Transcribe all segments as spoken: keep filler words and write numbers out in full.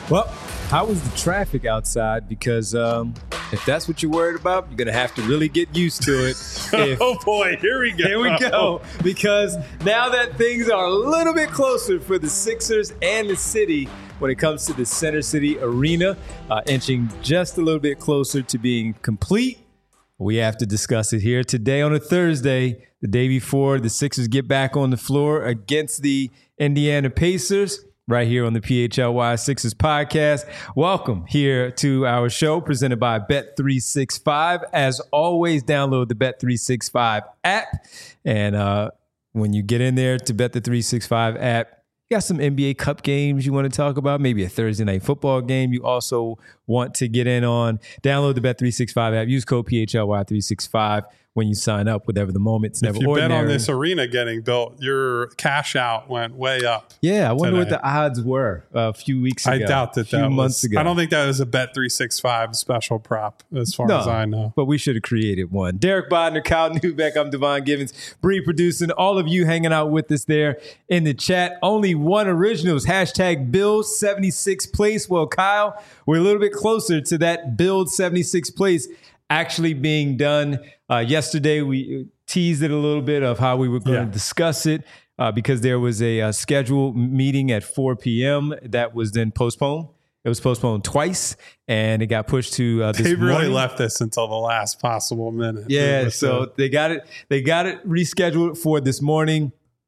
Well, how was the traffic outside? Because um, if that's what you're worried about, you're going to have to really get used to it. If, oh, boy. Here we go. Here we go. Because now that things are a little bit closer for the Sixers and the city when it comes to the Center City Arena, uh, inching just a little bit closer to being complete, we have to discuss it here today on a Thursday, the day before the Sixers get back on the floor against the Indiana Pacers. Right here on the P H L Y Sixers podcast. Welcome here to our show presented by Bet three sixty-five. As always, download the Bet three sixty-five app. And uh, when you get in there to Bet the three sixty-five app, you got some N B A Cup games you want to talk about, maybe a Thursday night football game you also want to get in on. Download the Bet three sixty-five app. Use code P H L Y three sixty-five when you sign up, whatever the moment's never ordinary. If you bet on this arena getting built, your cash out went way up. Yeah, I wonder today. what the odds were a few weeks ago. I doubt that a few that months was, ago. I don't think that was a Bet three sixty-five special prop as far no, as I know. But we should have created one. Derek Bodner, Kyle Newbeck, I'm Devon Givens, Bree producing, all of you hanging out with us there in the chat. Only one originals, hashtag Build seventy-sixth place. Well, Kyle, we're a little bit closer to that Build seventy-sixth place actually being done. Uh, yesterday, we teased it a little bit of how we were going yeah. to discuss it uh, because there was a, a scheduled meeting at four p.m. that was then postponed. It was postponed twice, and it got pushed to uh, this They really morning. left this until the last possible minute. Yeah, so they got it. They got it rescheduled for this morning.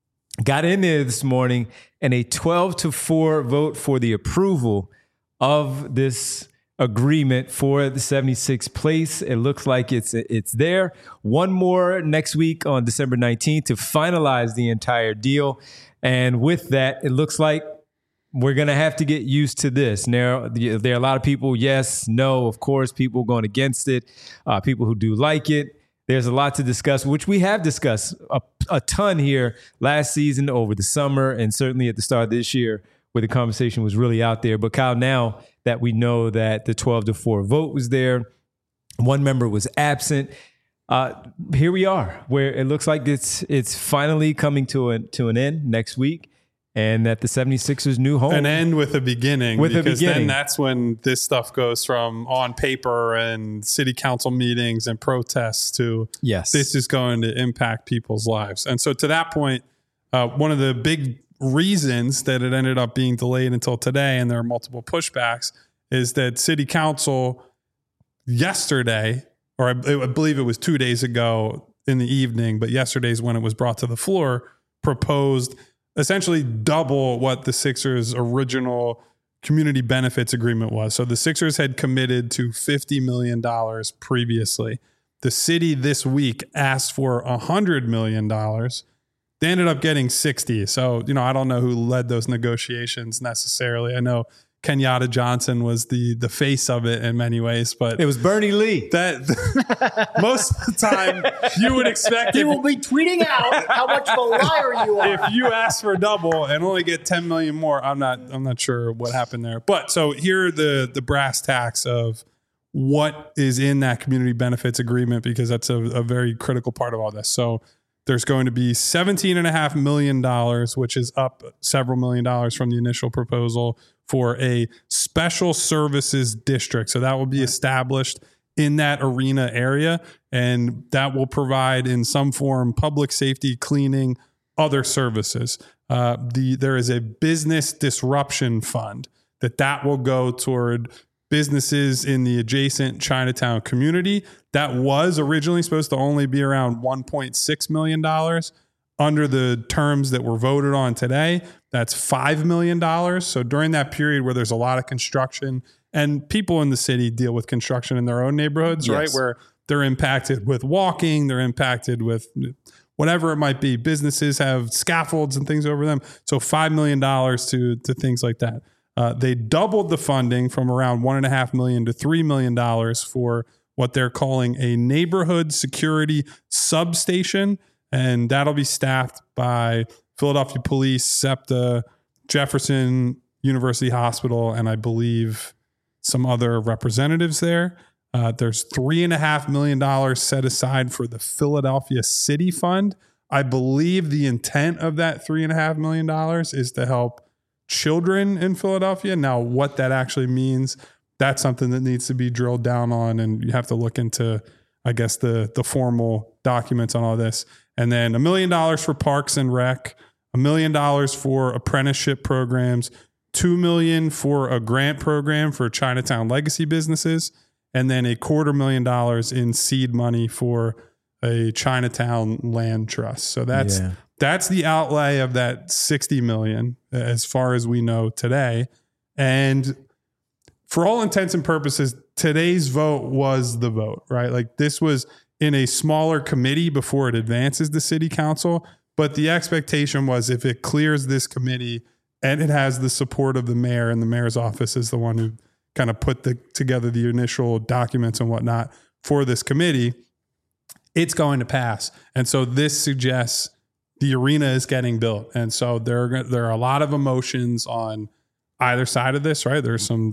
Got in there this morning, and a twelve to four vote for the approval of this agreement for the seventy-sixth place. It looks like it's it's there. One more next week on December nineteenth to finalize the entire deal. And with that, it looks like we're going to have to get used to this. Now, there are a lot of people, yes, no, of course, people going against it, uh, people who do like it. There's a lot to discuss, which we have discussed a, a ton here last season, over the summer, and certainly at the start of this year, where the conversation was really out there. But Kyle, now that we know that the twelve to four vote was there, one member was absent, uh, here we are, where it looks like it's it's finally coming to an, to an end next week, and that the seventy-sixers' new home. An end with a beginning. With because a beginning. Then that's when this stuff goes from on paper and city council meetings and protests to yes, this is going to impact people's lives. And so to that point, uh, one of the big reasons that it ended up being delayed until today, and there are multiple pushbacks, is that city council yesterday, or I, I believe it was two days ago in the evening, but yesterday's when it was brought to the floor, proposed essentially double what the Sixers' original community benefits agreement was. So the Sixers had committed to fifty million dollars previously. The city this week asked for one hundred million dollars. They ended up getting sixty. So, you know, I don't know who led those negotiations necessarily. I know Kenyatta Johnson was the the face of it in many ways, but it was Bernie Lee. That most of the time you would expect he if, will be tweeting out how much of a liar you are. If you ask for double and only get ten million more, I'm not I'm not sure what happened there. But so here are the the brass tacks of what is in that community benefits agreement, because that's a, a very critical part of all this. So there's going to be seventeen point five million dollars, which is up several million dollars from the initial proposal, for a special services district. So that will be established in that arena area, and that will provide in some form public safety, cleaning, other services. Uh, the there is a business disruption fund that that will go toward businesses in the adjacent Chinatown community. That was originally supposed to only be around one point six million dollars. Under the terms that were voted on today, that's five million dollars. So during that period where there's a lot of construction, and people in the city deal with construction in their own neighborhoods, yes, right? Where they're impacted with walking, they're impacted with whatever it might be. Businesses have scaffolds and things over them. So five million dollars to, to things like that. Uh, they doubled the funding from around one and a half million to three million dollars for what they're calling a neighborhood security substation. And that'll be staffed by Philadelphia Police, SEPTA, Jefferson University Hospital, and I believe some other representatives there. Uh, there's three and a half million dollars set aside for the Philadelphia City Fund. I believe the intent of that three and a half million dollars is to help children in Philadelphia. Now, what that actually means, that's something that needs to be drilled down on, and you have to look into, I guess, the the formal documents on all this. And then a million dollars for Parks and Rec, a million dollars for apprenticeship programs, two million for a grant program for Chinatown legacy businesses, and then a quarter million dollars in seed money for a Chinatown land trust. So that's Yeah. that's the outlay of that sixty million as far as we know today. And for all intents and purposes, today's vote was the vote, right? Like this was in a smaller committee before it advances to city council. But the expectation was if it clears this committee and it has the support of the mayor, and the mayor's office is the one who kind of put the, together the initial documents and whatnot for this committee, it's going to pass. And so this suggests the arena is getting built. And so there, there are a lot of emotions on either side of this, right? There's some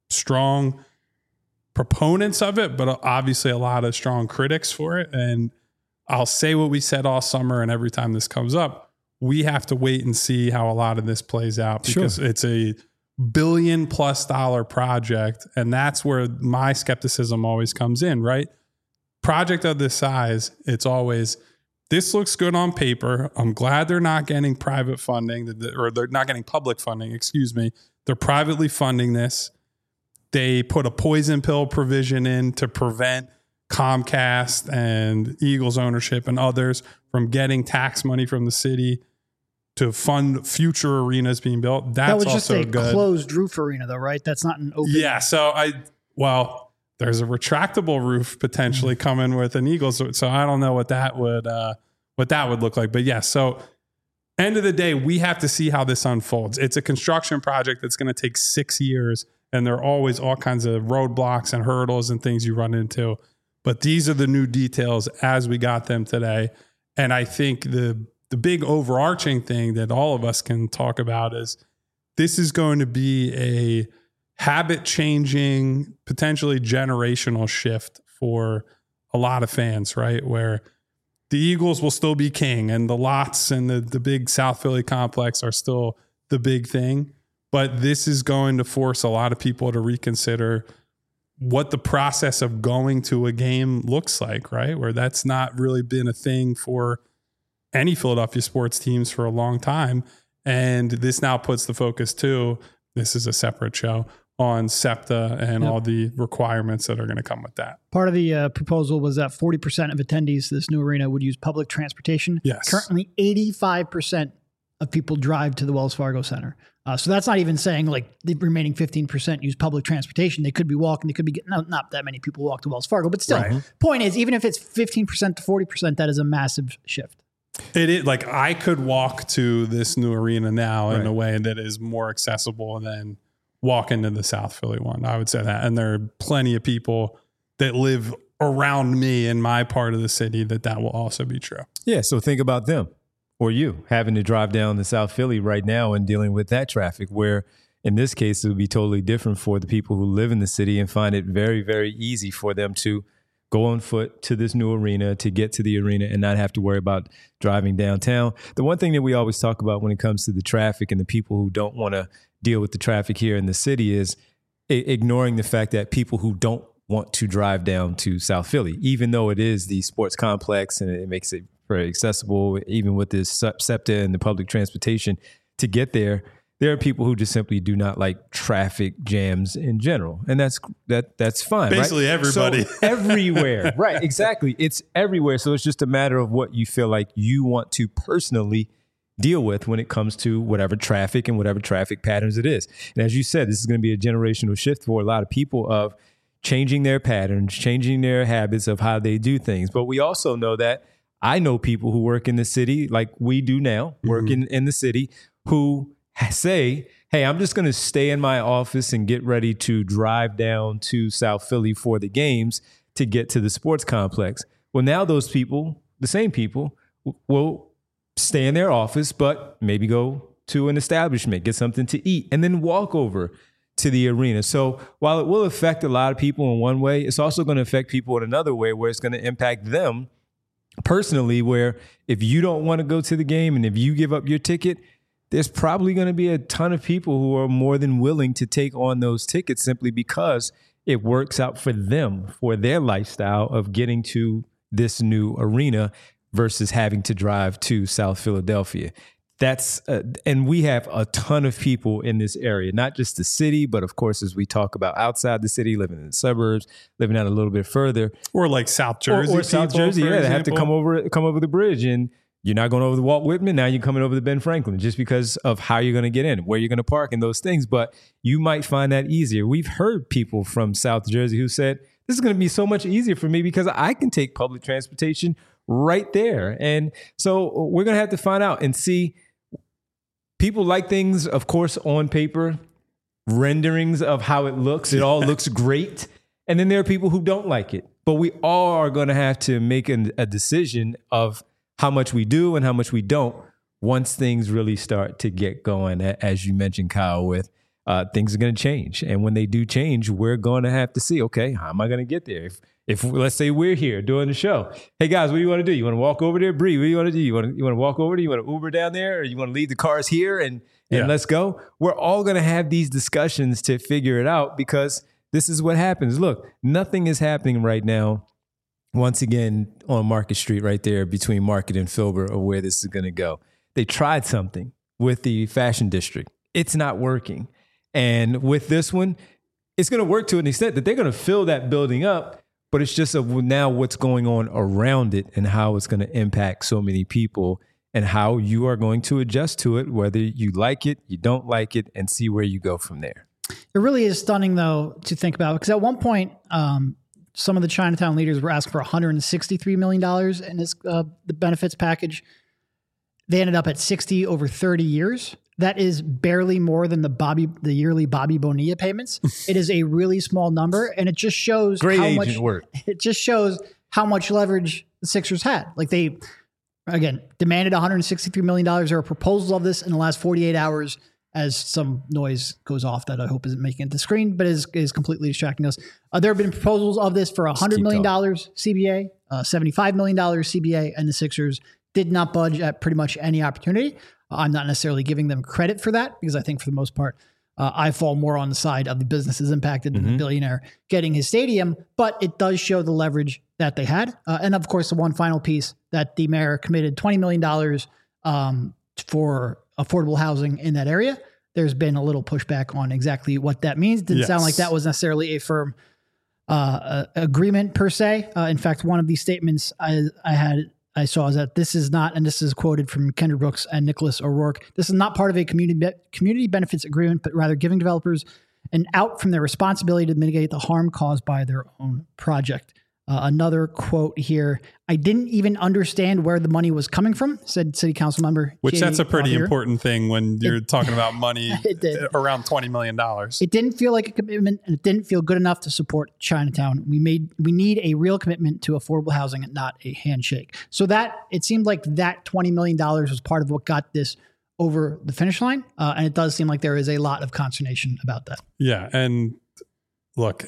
strong proponents of it, but obviously a lot of strong critics for it. And I'll say what we said all summer, and every time this comes up, we have to wait and see how a lot of this plays out, because Sure. it's a billion plus dollar project. And that's where my skepticism always comes in, right? Project of this size, it's always, this looks good on paper. I'm glad they're not getting private funding, or they're not getting public funding, excuse me. They're privately funding this. They put a poison pill provision in to prevent Comcast and Eagles ownership and others from getting tax money from the city to fund future arenas being built. That's That was just also a good. closed roof arena, though, right? That's not an open. Yeah. So I, well, there's a retractable roof potentially coming with an Eagles. So I don't know what that would, uh, what that would look like. But yeah, so end of the day, we have to see how this unfolds. It's a construction project that's going to take six years, and there are always all kinds of roadblocks and hurdles and things you run into. But these are the new details as we got them today. And I think the the big overarching thing that all of us can talk about is this is going to be a habit changing, potentially generational shift for a lot of fans, right? Where the Eagles will still be king, and the lots and the, the big South Philly complex are still the big thing. But this is going to force a lot of people to reconsider what the process of going to a game looks like, right? Where that's not really been a thing for any Philadelphia sports teams for a long time. And this now puts the focus too, this is a separate show, on SEPTA and Yep. all the requirements that are going to come with that. Part of the uh, proposal was that forty percent of attendees to this new arena would use public transportation. Yes. Currently, eighty-five percent of people drive to the Wells Fargo Center. Uh, so that's not even saying like the remaining fifteen percent use public transportation. They could be walking. They could be getting, no, not that many people walk to Wells Fargo, but still, Right. point is, even if it's fifteen percent to forty percent, that is a massive shift. It is like I could walk to this new arena now in Right. a way that is more accessible than walking to the South Philly one. I would say that. And there are plenty of people that live around me in my part of the city that that will also be true. Yeah, so think about them or you having to drive down to South Philly right now and dealing with that traffic, where in this case, it would be totally different for the people who live in the city and find it very, very easy for them to go on foot to this new arena, to get to the arena and not have to worry about driving downtown. The one thing that we always talk about when it comes to the traffic and the people who don't want to deal with the traffic here in the city is I- ignoring the fact that people who don't want to drive down to South Philly, even though it is the sports complex and it makes it very accessible, even with this SEPTA and the public transportation to get there, there are people who just simply do not like traffic jams in general. And that's that that's fine. Basically right? everybody. So everywhere. Right, exactly. It's everywhere. So it's just a matter of what you feel like you want to personally deal with when it comes to whatever traffic and whatever traffic patterns it is. And as you said, this is going to be a generational shift for a lot of people of changing their patterns, changing their habits of how they do things. But we also know that I know people who work in the city like we do now, work Mm-hmm. in, in the city, who say, hey, I'm just going to stay in my office and get ready to drive down to South Philly for the games to get to the sports complex. Well, now those people, the same people, w- will stay in their office, but maybe go to an establishment, get something to eat, and then walk over to the arena. So while it will affect a lot of people in one way, it's also going to affect people in another way where it's going to impact them personally, where if you don't want to go to the game and if you give up your ticket, there's probably going to be a ton of people who are more than willing to take on those tickets simply because it works out for them, for their lifestyle of getting to this new arena versus having to drive to South Philadelphia. That's uh, and we have a ton of people in this area, not just the city, but of course, as we talk about outside the city, living in the suburbs, living out a little bit further, or like South Jersey, or, or South people, Jersey, yeah, example. they have to come over, come over the bridge, and you're not going over the Walt Whitman. Now you're coming over the Ben Franklin just because of how you're going to get in, where you're going to park, and those things. But you might find that easier. We've heard people from South Jersey who said this is going to be so much easier for me because I can take public transportation right there, and so we're going to have to find out and see. People like things, of course, on paper, renderings of how it looks. It all looks great. And then there are people who don't like it. But we all are going to have to make an, a decision of how much we do and how much we don't once things really start to get going. As you mentioned, Kyle, with uh, things are going to change. And when they do change, we're going to have to see, okay, how am I going to get there? If If let's say we're here doing the show, hey guys, what do you want to do? You want to walk over there, Bree? What do you want to do? You want to you want to walk over there? You want to Uber down there, or you want to leave the cars here and and yeah. let's go? We're all going to have these discussions to figure it out because this is what happens. Look, nothing is happening right now. Once again, on Market Street, right there between Market and Filbert, of where this is going to go. They tried something with the Fashion District. It's not working, and with this one, it's going to work to an extent that they're going to fill that building up. But it's just a, now what's going on around it and how it's going to impact so many people and how you are going to adjust to it, whether you like it, you don't like it, and see where you go from there. It really is stunning, though, to think about, because at one point, um, some of the Chinatown leaders were asking for one hundred sixty-three million dollars in this, uh, the benefits package. They ended up at sixty over thirty years. That is barely more than the Bobby, the yearly Bobby Bonilla payments. It is a really small number, and it just shows Great how agent much work. It just shows how much leverage the Sixers had. Like they, again, demanded one hundred sixty-three million dollars. There are proposals of this in the last forty-eight hours. As some noise goes off that I hope isn't making it to the screen, but is is completely distracting us. Uh, there have been proposals of this for one hundred million dollars C B A, uh, seventy-five million dollars C B A, and the Sixers did not budge at pretty much any opportunity. I'm not necessarily giving them credit for that because I think for the most part, uh, I fall more on the side of the businesses impacted than mm-hmm. the billionaire getting his stadium, but it does show the leverage that they had. Uh, and of course, the one final piece that the mayor committed twenty million dollars um, for affordable housing in that area. There's been a little pushback on exactly what that means. Didn't yes. sound like that was necessarily a firm uh, uh, agreement per se. Uh, in fact, one of these statements I, I had I saw is that this is not, and this is quoted from Kendra Brooks and Nicholas O'Rourke, this is not part of a community be- community benefits agreement, but rather giving developers an out from their responsibility to mitigate the harm caused by their own project. Uh, another quote here, I didn't even understand where the money was coming from, said city council member. Which J. that's a pretty Cloutier. important thing when you're it, talking about money around twenty million dollars. It didn't feel like a commitment, and it didn't feel good enough to support Chinatown. We made we need a real commitment to affordable housing and not a handshake. So that, it seemed like that twenty million dollars was part of what got this over the finish line. Uh, and it does seem like there is a lot of consternation about that. Yeah. And look,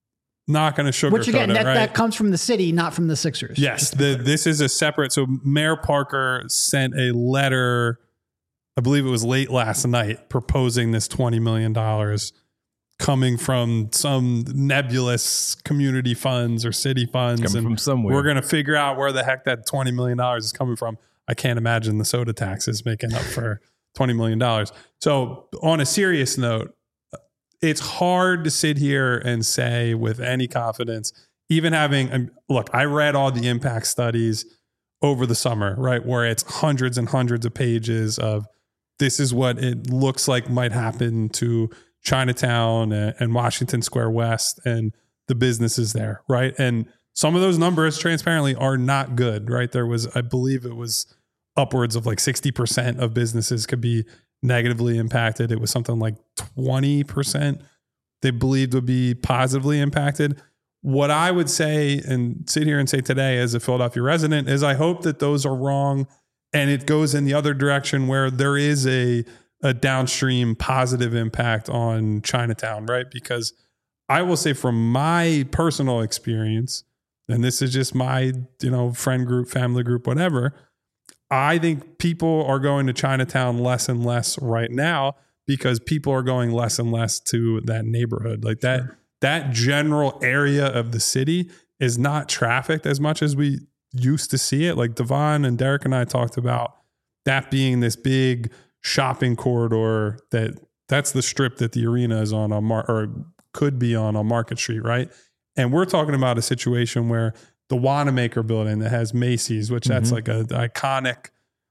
not going to sugarcoat Which again, it, that, right? that comes from the city, not from the Sixers. Yes, the, this is a separate. So Mayor Parker sent a letter, I believe it was late last night, proposing this twenty million dollars coming from some nebulous community funds or city funds. Coming and from somewhere. We're going to figure out where the heck that twenty million dollars is coming from. I can't imagine the soda tax is making up for twenty million dollars. So on a serious note, it's hard to sit here and say with any confidence, even having, look, I read all the impact studies over the summer, right? Where it's hundreds and hundreds of pages of this is what it looks like might happen to Chinatown and Washington Square West and the businesses there, right? And some of those numbers transparently are not good, right? There was, I believe it was upwards of like sixty percent of businesses could be negatively impacted. It was something like twenty percent they believed would be positively impacted. What I would say and sit here and say today as a Philadelphia resident is I hope that those are wrong and it goes in the other direction where there is a, a downstream positive impact on Chinatown, right? Because I will say from my personal experience, and this is just my, you know, friend group, family group, whatever, I think people are going to Chinatown less and less right now because people are going less and less to that neighborhood. Like that, sure. that general area of the city is not trafficked as much as we used to see it. Like Devon and Derek and I talked about that being this big shopping corridor that that's the strip that the arena is on, on Mar- or could be on on Market Street, right? And we're talking about a situation where the Wanamaker building that has Macy's, which that's mm-hmm. like a iconic,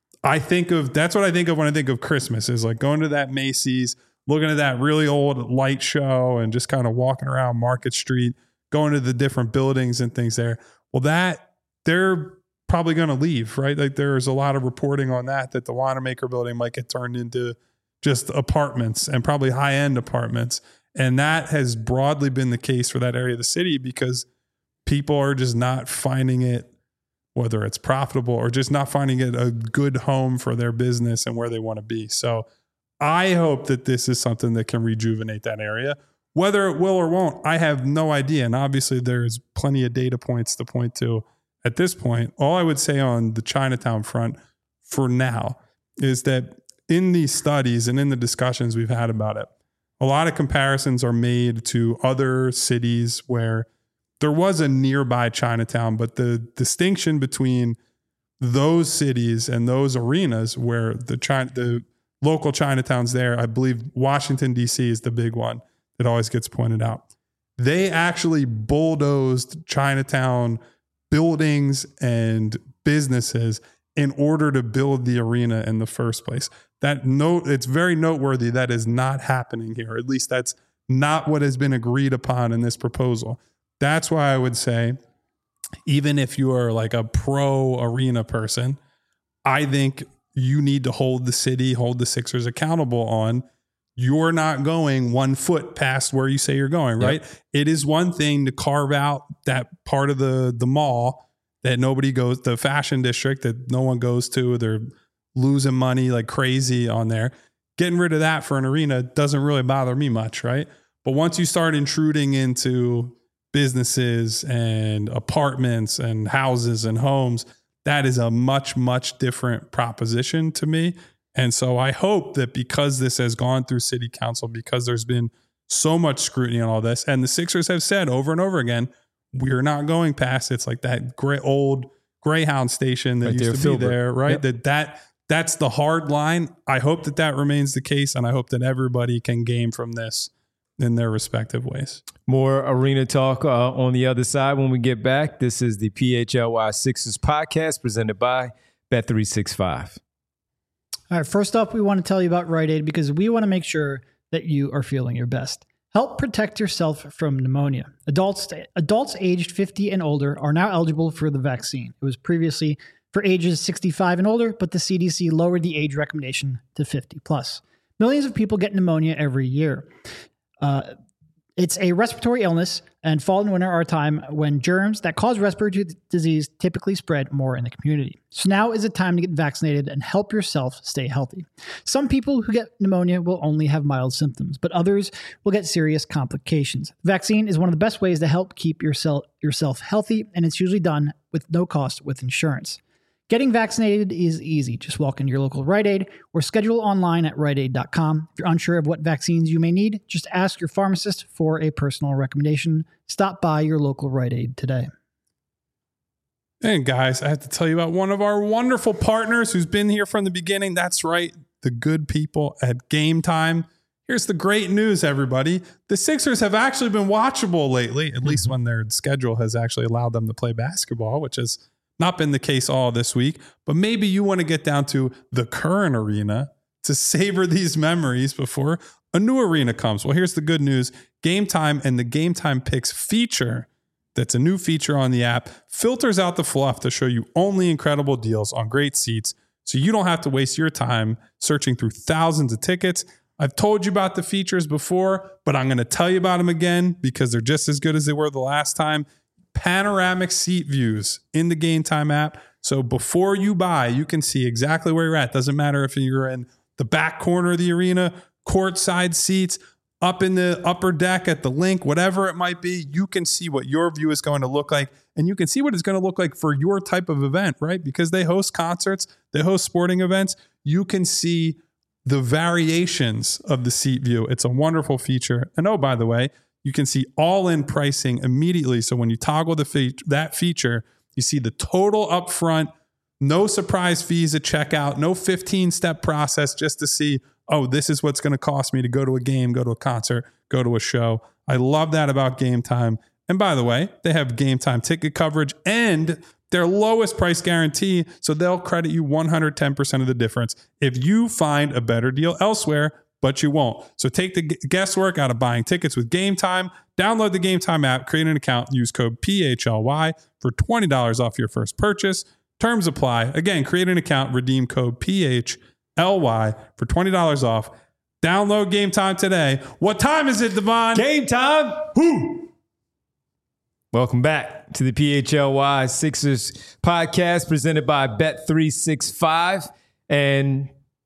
I think of, that's what I think of when I think of Christmas, is like going to that Macy's, looking at that really old light show and just kind of walking around Market Street, going to the different buildings and things there. Well, that they're probably going to leave, right? Like there's a lot of reporting on that, that the Wanamaker building might get turned into just apartments and probably high-end apartments. And that has broadly been the case for that area of the city because people are just not finding it, whether it's profitable or just not finding it a good home for their business and where they want to be. So I hope that this is something that can rejuvenate that area. Whether it will or won't, I have no idea. And obviously there's plenty of data points to point to at this point. All I would say on the Chinatown front for now is that in these studies and in the discussions we've had about it, a lot of comparisons are made to other cities where there was a nearby Chinatown, but the distinction between those cities and those arenas where the China, the local Chinatowns there, I believe Washington, D C is the big one that always gets pointed out. They actually bulldozed Chinatown buildings and businesses in order to build the arena in the first place. That note, it's very noteworthy that is not happening here. At least that's not what has been agreed upon in this proposal. That's why I would say, even if you are like a pro arena person, I think you need to hold the city, hold the Sixers accountable on you're not going one foot past where you say you're going, right? Yep. It is one thing to carve out that part of the, the mall that nobody goes, the fashion district that no one goes to. They're losing money like crazy on there. Getting rid of that for an arena doesn't really bother me much, right? But once you start intruding into businesses and apartments and houses and homes, that is a much, much different proposition to me. And so I hope that because this has gone through city council, because there's been so much scrutiny on all this, and the Sixers have said over and over again, we're not going past, it's like that great old Greyhound station that right used there, to be Filbert. There, right? Yep. That that that's the hard line. I hope that that remains the case, and I hope that everybody can gain from this in their respective ways. More arena talk uh, on the other side when we get back. This is the P H L Y Sixers podcast presented by Bet three sixty-five. All right, first up, we want to tell you about Rite Aid because we want to make sure that you are feeling your best. Help protect yourself from pneumonia. Adults adults aged fifty and older are now eligible for the vaccine. It was previously for ages sixty-five and older, but the C D C lowered the age recommendation to fifty plus. Millions of people get pneumonia every year. Uh, it's a respiratory illness, and fall and winter are a time when germs that cause respiratory disease typically spread more in the community. So now is the time to get vaccinated and help yourself stay healthy. Some people who get pneumonia will only have mild symptoms, but others will get serious complications. The vaccine is one of the best ways to help keep yourself, yourself healthy, and it's usually done with no cost with insurance. Getting vaccinated is easy. Just walk into your local Rite Aid or schedule online at rite aid dot com. If you're unsure of what vaccines you may need, just ask your pharmacist for a personal recommendation. Stop by your local Rite Aid today. And guys, I have to tell you about one of our wonderful partners who's been here from the beginning. That's right, the good people at Game Time. Here's the great news, everybody. The Sixers have actually been watchable lately, at least when their schedule has actually allowed them to play basketball, which is not been the case all this week, but maybe you want to get down to the current arena to savor these memories before a new arena comes. Well, here's the good news. Game Time and the Game Time Picks feature, that's a new feature on the app, filters out the fluff to show you only incredible deals on great seats so you don't have to waste your time searching through thousands of tickets. I've told you about the features before, but I'm going to tell you about them again because they're just as good as they were the last time. Panoramic seat views in the Game Time app. So before you buy, you can see exactly where you're at. Doesn't matter if you're in the back corner of the arena, courtside seats, up in the upper deck at the link, whatever it might be, you can see what your view is going to look like. And you can see what it's going to look like for your type of event, right? Because they host concerts, they host sporting events. You can see the variations of the seat view. It's a wonderful feature. And oh, by the way, you can see all-in pricing immediately. So when you toggle the fe- that feature, you see the total upfront, no surprise fees at checkout, no fifteen-step process just to see, oh, this is what's going to cost me to go to a game, go to a concert, go to a show. I love that about Game Time. And by the way, they have Game Time ticket coverage and their lowest price guarantee, so they'll credit you one hundred ten percent of the difference if you find a better deal elsewhere, but you won't. So take the guesswork out of buying tickets with Game Time. Download the Game Time app, create an account, use code P H L Y for twenty dollars off your first purchase. Terms apply. Again, create an account, redeem code P H L Y for twenty dollars off. Download Game Time today. What time is it, Devon? Game time. Woo! Welcome back to the P H L Y Sixers podcast presented by Bet three sixty-five. And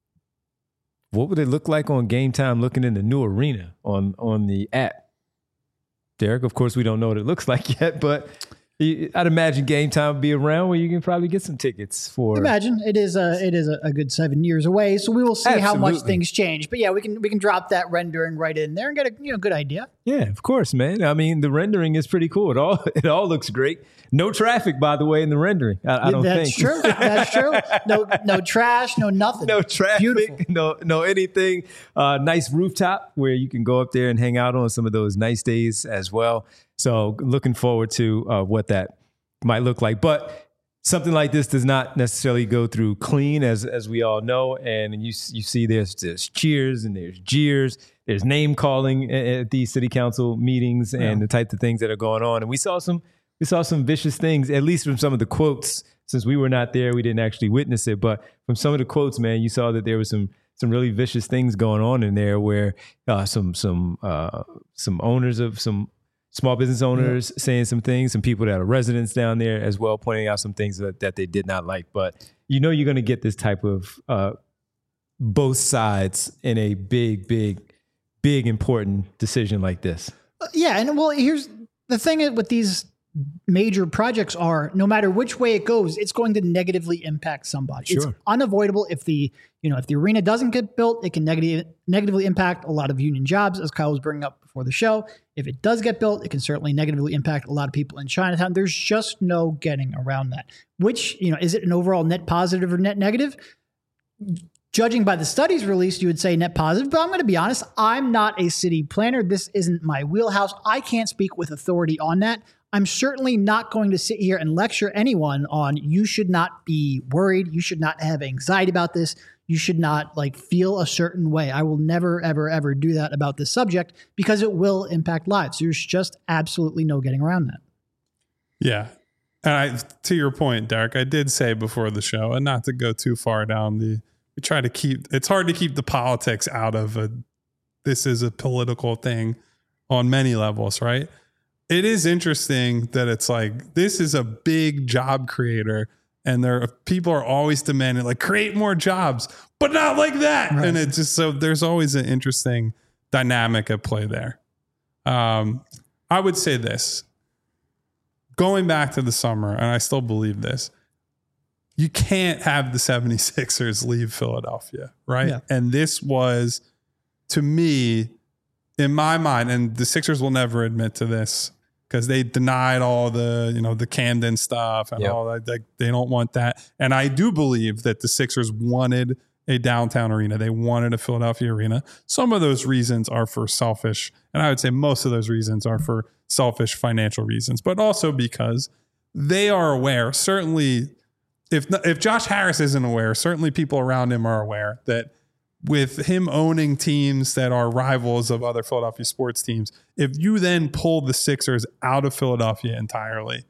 what would it look like on Game Time looking in the new arena on, on the app? Derek, of course, we don't know what it looks like yet, but I'd imagine Game Time would be around where you can probably get some tickets for. Imagine it is a it is a, a good seven years away, so we will see Absolutely. how much things change. But yeah, we can we can drop that rendering right in there and get a you know good idea. Yeah, of course, man. I mean, the rendering is pretty cool. It all it all looks great. No traffic, by the way, in the rendering. I, I don't That's think true. That's true. No no trash, no nothing. No traffic. Beautiful. No no anything. Uh, nice rooftop where you can go up there and hang out on some of those nice days as well. So looking forward to uh, what that might look like. But something like this does not necessarily go through clean, as as we all know. And you you see there's, there's cheers and there's jeers. There's name calling at, at these city council meetings and yeah. the types of things that are going on. And we saw some we saw some vicious things, at least from some of the quotes. Since we were not there, we didn't actually witness it. But from some of the quotes, man, you saw that there was some some really vicious things going on in there where uh, some some uh, some owners of some small business owners yeah. saying some things, some people that are residents down there as well, pointing out some things that, that they did not like. But you know you're going to get this type of uh, both sides in a big, big, big important decision like this. Uh, yeah, and well, here's the thing with these major projects are no matter which way it goes, it's going to negatively impact somebody. Sure. It's unavoidable. If the you know if the arena doesn't get built, it can negative, negatively impact a lot of union jobs, as Kyle was bringing up before the show. If it does get built, it can certainly negatively impact a lot of people in Chinatown. There's just no getting around that. Which, you know, is it an overall net positive or net negative? Judging by the studies released, you would say net positive, but I'm going to be honest, I'm not a city planner. This isn't my wheelhouse. I can't speak with authority on that. I'm certainly not going to sit here and lecture anyone on you should not be worried. You should not have anxiety about this. You should not like feel a certain way. I will never, ever, ever do that about this subject because it will impact lives. There's just absolutely no getting around that. Yeah. And I, to your point, Derek, I did say before the show, and not to go too far down the, we try to keep, it's hard to keep the politics out of a, this is a political thing on many levels, right? It is interesting that it's like, this is a big job creator and there are, people are always demanding like create more jobs, but not like that. Right. And it's just, so there's always an interesting dynamic at play there. Um, I would say this, going back to the summer, and I still believe this, you can't have the seventy-sixers leave Philadelphia, right? Yeah. And this was, to me, in my mind, and the Sixers will never admit to this because they denied all the, you know, the Camden stuff and yep. all that. Like, they don't want that. And I do believe that the Sixers wanted a downtown arena. They wanted a Philadelphia arena. Some of those reasons are for selfish, and I would say most of those reasons are for selfish financial reasons, but also because they are aware, certainly if if Josh Harris isn't aware, certainly people around him are aware that with him owning teams that are rivals of other Philadelphia sports teams, if you then pull the Sixers out of Philadelphia entirely,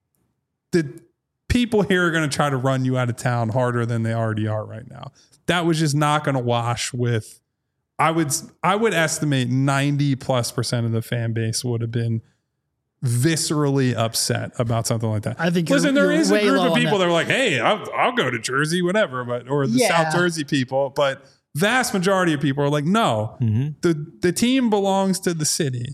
the people here are going to try to run you out of town harder than they already are right now. That was just not going to wash with, I would, I would estimate ninety plus percent of the fan base would have been viscerally upset about something like that. I think listen, you're, there you're is a group of people that. that are like, hey, I'll, I'll go to Jersey, whatever, but, or the yeah. South Jersey people, but vast majority of people are like, no, Mm-hmm. the, the team belongs to the city,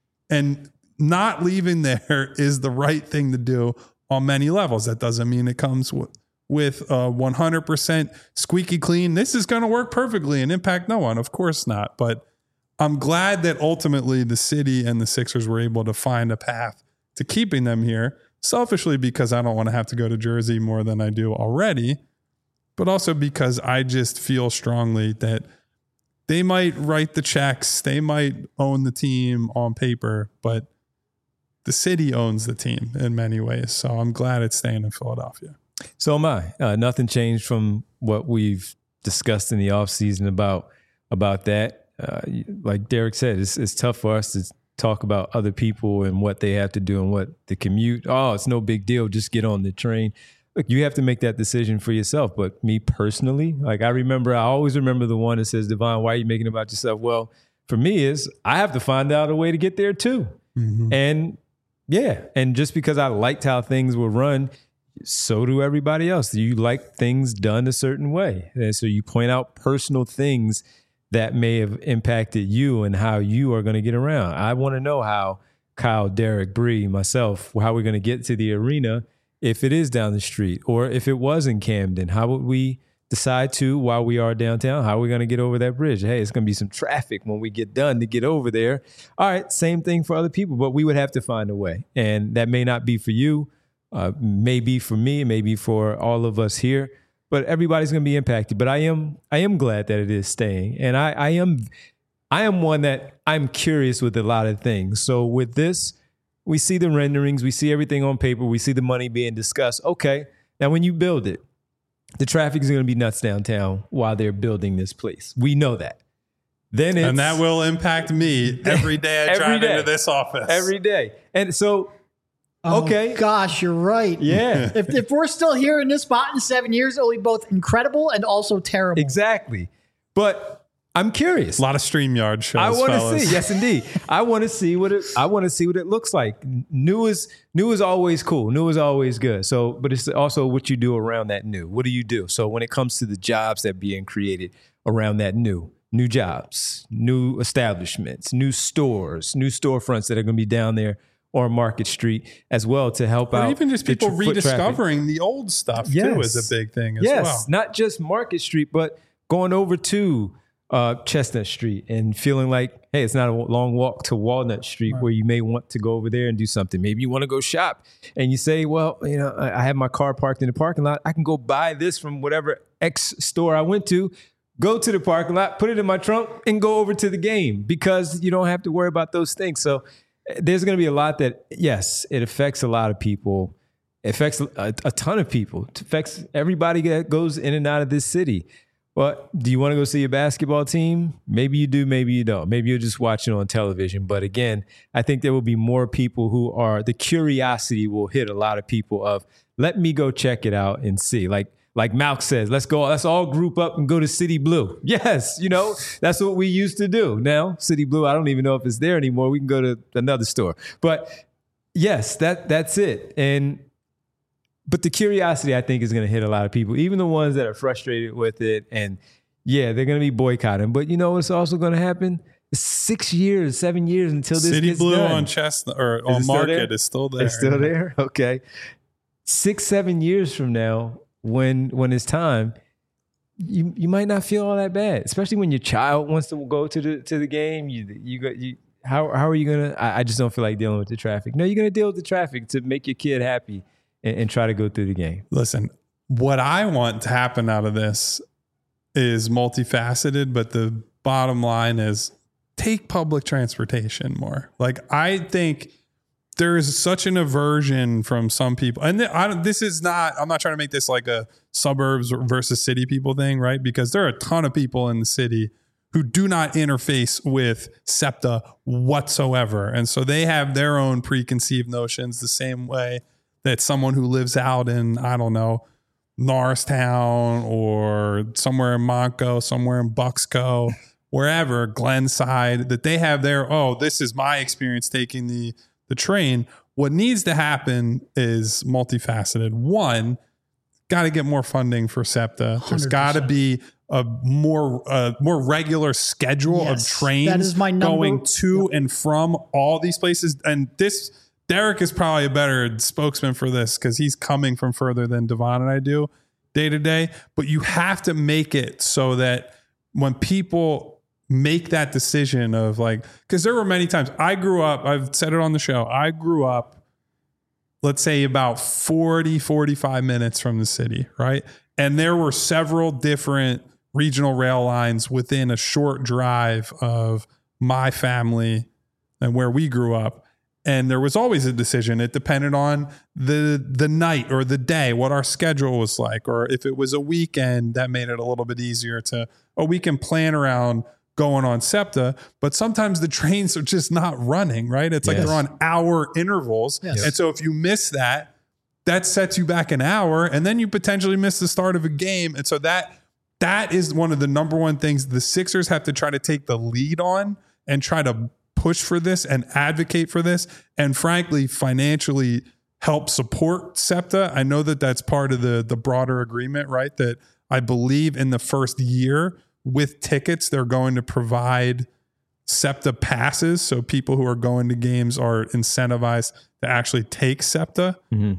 and not leaving there is the right thing to do on many levels. That doesn't mean it comes with, with uh, one hundred percent squeaky clean. This is going to work perfectly and impact no one. Of course not. But I'm glad that ultimately the city and the Sixers were able to find a path to keeping them here, selfishly because I don't want to have to go to Jersey more than I do already, but also because I just feel strongly that they might write the checks, they might own the team on paper, but the city owns the team in many ways. So I'm glad it's staying in Philadelphia. So am I. Uh, nothing changed from what we've discussed in the offseason about about that. Uh, like Derek said, it's, it's tough for us to talk about other people and what they have to do and what the commute. Oh, it's no big deal. Just get on the train. Look, you have to make that decision for yourself. But me personally, like I remember, I always remember the one that says, Devon, why are you making it about yourself? Well, for me is I have to find out a way to get there too. Mm-hmm. And yeah, and just because I liked how things were run, so do everybody else. You like things done a certain way. And so you point out personal things that may have impacted you and how you are going to get around. I want to know how Kyle, Derek, Bree, myself, how we're going to get to the arena if it is down the street, or if it was in Camden. How would we decide to, while we are downtown, how are we going to get over that bridge? Hey, it's going to be some traffic when we get done to get over there. All right, same thing for other people, but we would have to find a way. And that may not be for you, uh, maybe for me, maybe for all of us here. But everybody's going to be impacted. But I am I am glad that it is staying. And I, I am I am one that I'm curious with a lot of things. So with this, we see the renderings, we see everything on paper, we see the money being discussed. Okay, now when you build it, the traffic is going to be nuts downtown while they're building this place. We know that. Then it's, and that will impact me every day I every drive day. into this office. Every day. And so, Oh, okay. gosh, you're right. Yeah. If, if we're still here in this spot in seven years, it'll be both incredible and also terrible. Exactly. But I'm curious. A lot of StreamYard shows. I want fellas. to see. Yes, indeed. I want to see what it. I want to see what it looks like. New is new is always cool. New is always good. So, but it's also what you do around that new. What do you do? So when it comes to the jobs that are being created around that new, new jobs, new establishments, new stores, new storefronts that are going to be down there on Market Street as well to help or out. Or even just the people tr- foot rediscovering traffic. the old stuff Yes. too is a big thing as yes, well. Not just Market Street, but going over to uh, Chestnut Street and feeling like, hey, it's not a long walk to Walnut Street right. where you may want to go over there and do something. Maybe you want to go shop and you say, well, you know, I have my car parked in the parking lot. I can go buy this from whatever X store I went to, go to the parking lot, put it in my trunk and go over to the game because you don't have to worry about those things. So there's going to be a lot that, yes, it affects a lot of people. It affects a, a ton of people. It affects everybody that goes in and out of this city. But do you want to go see a basketball team? Maybe you do, maybe you don't. Maybe you're just watching on television. But again, I think there will be more people who are, the curiosity will hit a lot of people of, let me go check it out and see. Like, Like Malk says, let's go, let's all group up and go to City Blue. Yes, you know, that's what we used to do. Now, City Blue, I don't even know if it's there anymore. We can go to another store. But yes, that that's it. And but the curiosity, I think, is going to hit a lot of people, even the ones that are frustrated with it. And yeah, they're going to be boycotting. But you know what's also going to happen? It's six years, seven years until this City gets Blue done. on Chestnut or Is on it still Market there? is still there. It's still there? Okay. Six, seven years from now, when when it's time, you you might not feel all that bad, especially when your child wants to go to the to the game. You you go you how how are you gonna? I, I just don't feel like dealing with the traffic. No, you're gonna deal with the traffic to make your kid happy and, and try to go through the game. Listen, what I want to happen out of this is multifaceted, but the bottom line is take public transportation more. Like I think there is such an aversion from some people. And I don't, this is not, I'm not trying to make this like a suburbs versus city people thing, right? Because there are a ton of people in the city who do not interface with SEPTA whatsoever. And so they have their own preconceived notions the same way that someone who lives out in, I don't know, Norristown or somewhere in Montco, somewhere in Bucksco, wherever, Glenside, that they have their, oh, this is my experience taking the the train. What needs to happen is multifaceted. One, got to get more funding for SEPTA. There's got to be a more uh, more regular schedule Yes, of trains that is my number- going to and from all these places. And this Derek is probably a better spokesman for this because he's coming from further than Devon and I do day to day. But you have to make it so that when people make that decision of like, because there were many times I grew up, I've said it on the show, I grew up, let's say about forty, forty-five minutes from the city, right? And there were several different regional rail lines within a short drive of my family and where we grew up. And there was always a decision. It depended on the the night or the day, what our schedule was like, or if it was a weekend, that made it a little bit easier to, oh, we can plan around going on SEPTA, but sometimes the trains are just not running, right? It's like Yes. they're on hour intervals. Yes. And so if you miss that, that sets you back an hour, and then you potentially miss the start of a game. And so that that is one of the number one things the Sixers have to try to take the lead on and try to push for this and advocate for this. And frankly, financially help support SEPTA. I know that that's part of the, the broader agreement, right? That I believe in the first year with tickets, they're going to provide SEPTA passes. So people who are going to games are incentivized to actually take SEPTA. Mm-hmm.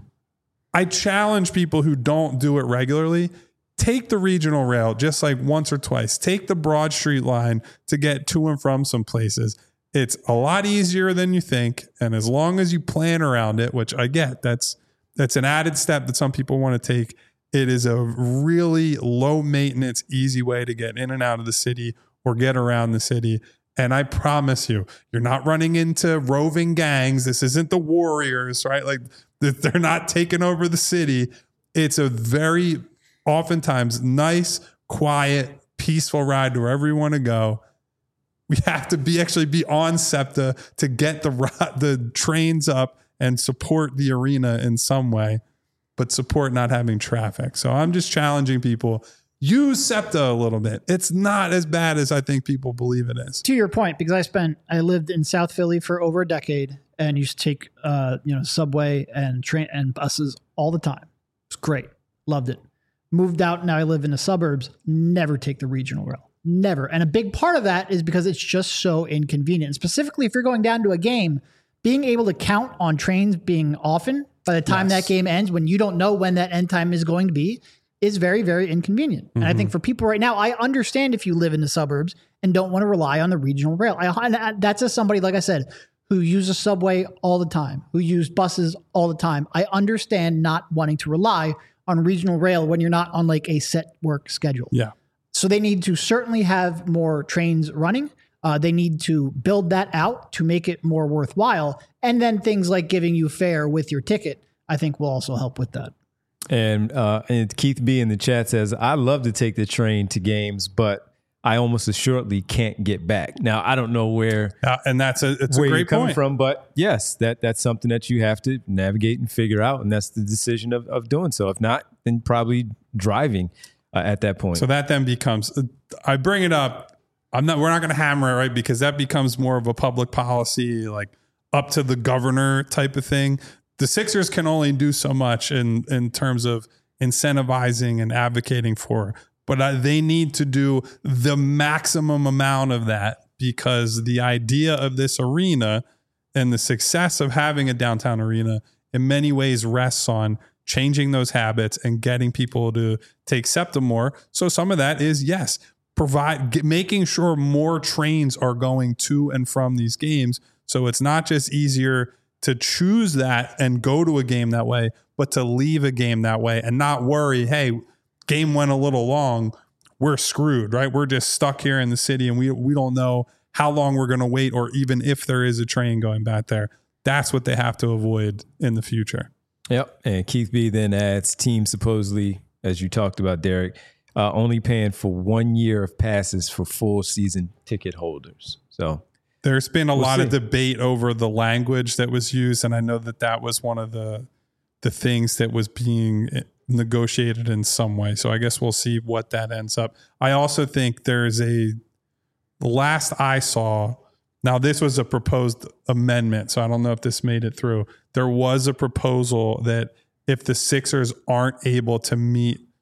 I challenge people who don't do it regularly, take the regional rail just like once or twice. Take the Broad Street line to get to and from some places. It's a lot easier than you think. And as long as you plan around it, which I get, that's that's an added step that some people want to take. It is a really low maintenance, easy way to get in and out of the city or get around the city. And I promise you, you're not running into roving gangs. This isn't the Warriors, right? Like they're not taking over the city. It's a very oftentimes nice, quiet, peaceful ride to wherever you want to go. We have to be actually be on SEPTA to get the the trains up and support the arena in some way, but support not having traffic. So I'm just challenging people, use SEPTA a little bit. It's not as bad as I think people believe it is. To your point, because I spent, I lived in South Philly for over a decade and used to take, uh, you know, subway and train and buses all the time. It's great. Loved it. Moved out. Now I live in the suburbs. Never take the regional rail. Never. And a big part of that is because it's just so inconvenient. Specifically, if you're going down to a game, being able to count on trains being often by the time Yes. that game ends, when you don't know when that end time is going to be, is very, very inconvenient. Mm-hmm. And I think for people right now, I understand if you live in the suburbs and don't want to rely on the regional rail. I, that's as somebody, like I said, who uses subway all the time, who use buses all the time. I understand not wanting to rely on regional rail when you're not on like a set work schedule. Yeah. So they need to certainly have more trains running. Uh, they need to build that out to make it more worthwhile. And then things like giving you fare with your ticket, I think will also help with that. And, uh, and Keith B in the chat says, I love to take the train to games, but I almost assuredly can't get back. Now, I don't know where, Uh, and that's a, it's a where great you're coming point. from, but yes, that that's something that you have to navigate and figure out. And that's the decision of, of doing so. If not, then probably driving uh, at that point. So that then becomes, I bring it up. I'm not, we're not going to hammer it, right? Because that becomes more of a public policy, like up to the governor type of thing. The Sixers can only do so much in, in terms of incentivizing and advocating for, but uh, they need to do the maximum amount of that, because the idea of this arena and the success of having a downtown arena in many ways rests on changing those habits and getting people to take SEPTA more. So some of that is, yes, provide get, making sure more trains are going to and from these games. So it's not just easier to choose that and go to a game that way, but to leave a game that way and not worry, hey, game went a little long, we're screwed, right? We're just stuck here in the city and we we don't know how long we're going to wait, or even if there is a train going back there. That's what they have to avoid in the future. Yep. And Keith B then adds, teams supposedly, as you talked about, Derek, uh, only paying for one year of passes for full season ticket holders. So there's been a we'll lot see. of debate over the language that was used. And I know that that was one of the, the things that was being negotiated in some way. So I guess we'll see what that ends up. I also think there's a, the last I saw, now this was a proposed amendment, so I don't know if this made it through. There was a proposal that if the Sixers aren't able to meet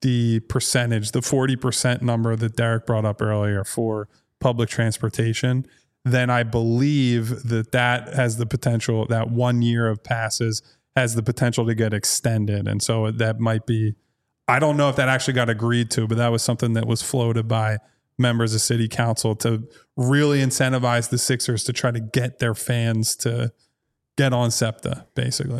the percentage, the forty percent number that Derek brought up earlier for public transportation, then I believe that that has the potential, that one year of passes has the potential to get extended. And so that might be, I don't know if that actually got agreed to, but that was something that was floated by members of city council to really incentivize the Sixers to try to get their fans to get on SEPTA, basically.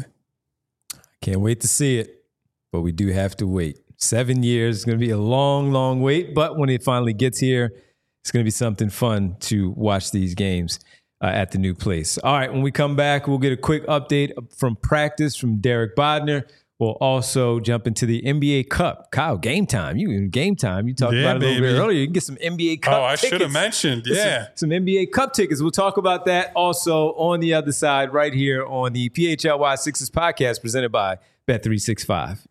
Can't wait to see it, but we do have to wait. Seven years is going to be a long, long wait, but when it finally gets here, it's going to be something fun to watch these games uh, at the new place. All right, when we come back, we'll get a quick update from practice from Derek Bodner. We'll also jump into the N B A Cup. Kyle, game time. You in game time. You talked yeah, about it a little baby. bit earlier. You can get some N B A Cup Oh, I tickets. should have mentioned. Yeah. Some, some N B A Cup tickets. We'll talk about that also on the other side right here on the P H L Y Sixers podcast presented by Bet three sixty-five.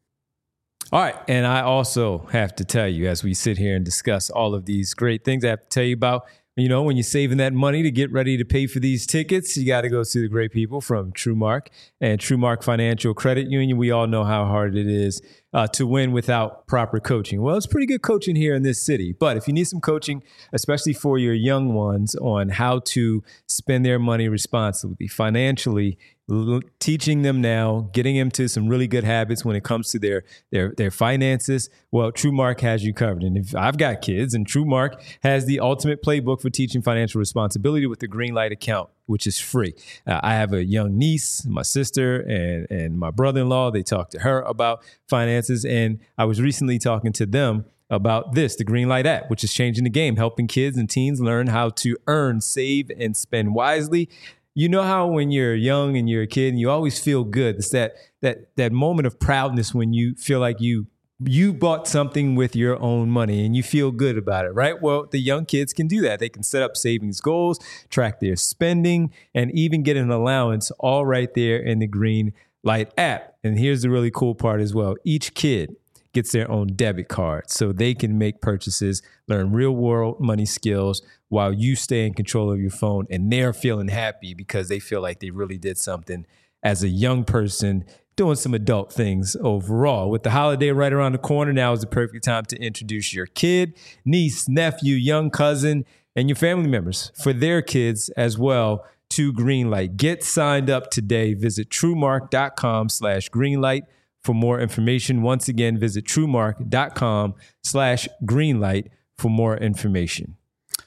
All right, and I also have to tell you, as we sit here and discuss all of these great things, I have to tell you about, you know, when you're saving that money to get ready to pay for these tickets, you got to go see the great people from TrueMark and TrueMark Financial Credit Union. We all know how hard it is uh, to win without proper coaching. Well, it's pretty good coaching here in this city, but if you need some coaching, especially for your young ones on how to spend their money responsibly, financially, l- teaching them now, getting them to some really good habits when it comes to their their their finances, well, TrueMark has you covered. And if I've got kids, and TrueMark has the ultimate playbook for teaching financial responsibility with the Greenlight account, which is free. Uh, I have a young niece, my sister, and and my brother-in-law. They talk to her about finances, and I was recently talking to them about this, the Greenlight app, which is changing the game, helping kids and teens learn how to earn, save, and spend wisely. You know how when you're young and you're a kid and you always feel good, it's that that that moment of proudness when you feel like you you bought something with your own money and you feel good about it, right? Well, the young kids can do that. They can set up savings goals, track their spending, and even get an allowance all right there in the Greenlight app. And here's the really cool part as well. Each kid gets their own debit card so they can make purchases, learn real world money skills while you stay in control of your phone, and they're feeling happy because they feel like they really did something as a young person doing some adult things overall. With the holiday right around the corner, now is the perfect time to introduce your kid, niece, nephew, young cousin, and your family members for their kids as well to Greenlight. Get signed up today. Visit TrueMark.com slash Greenlight for more information. Once again, visit TrueMark.com slash Greenlight for more information.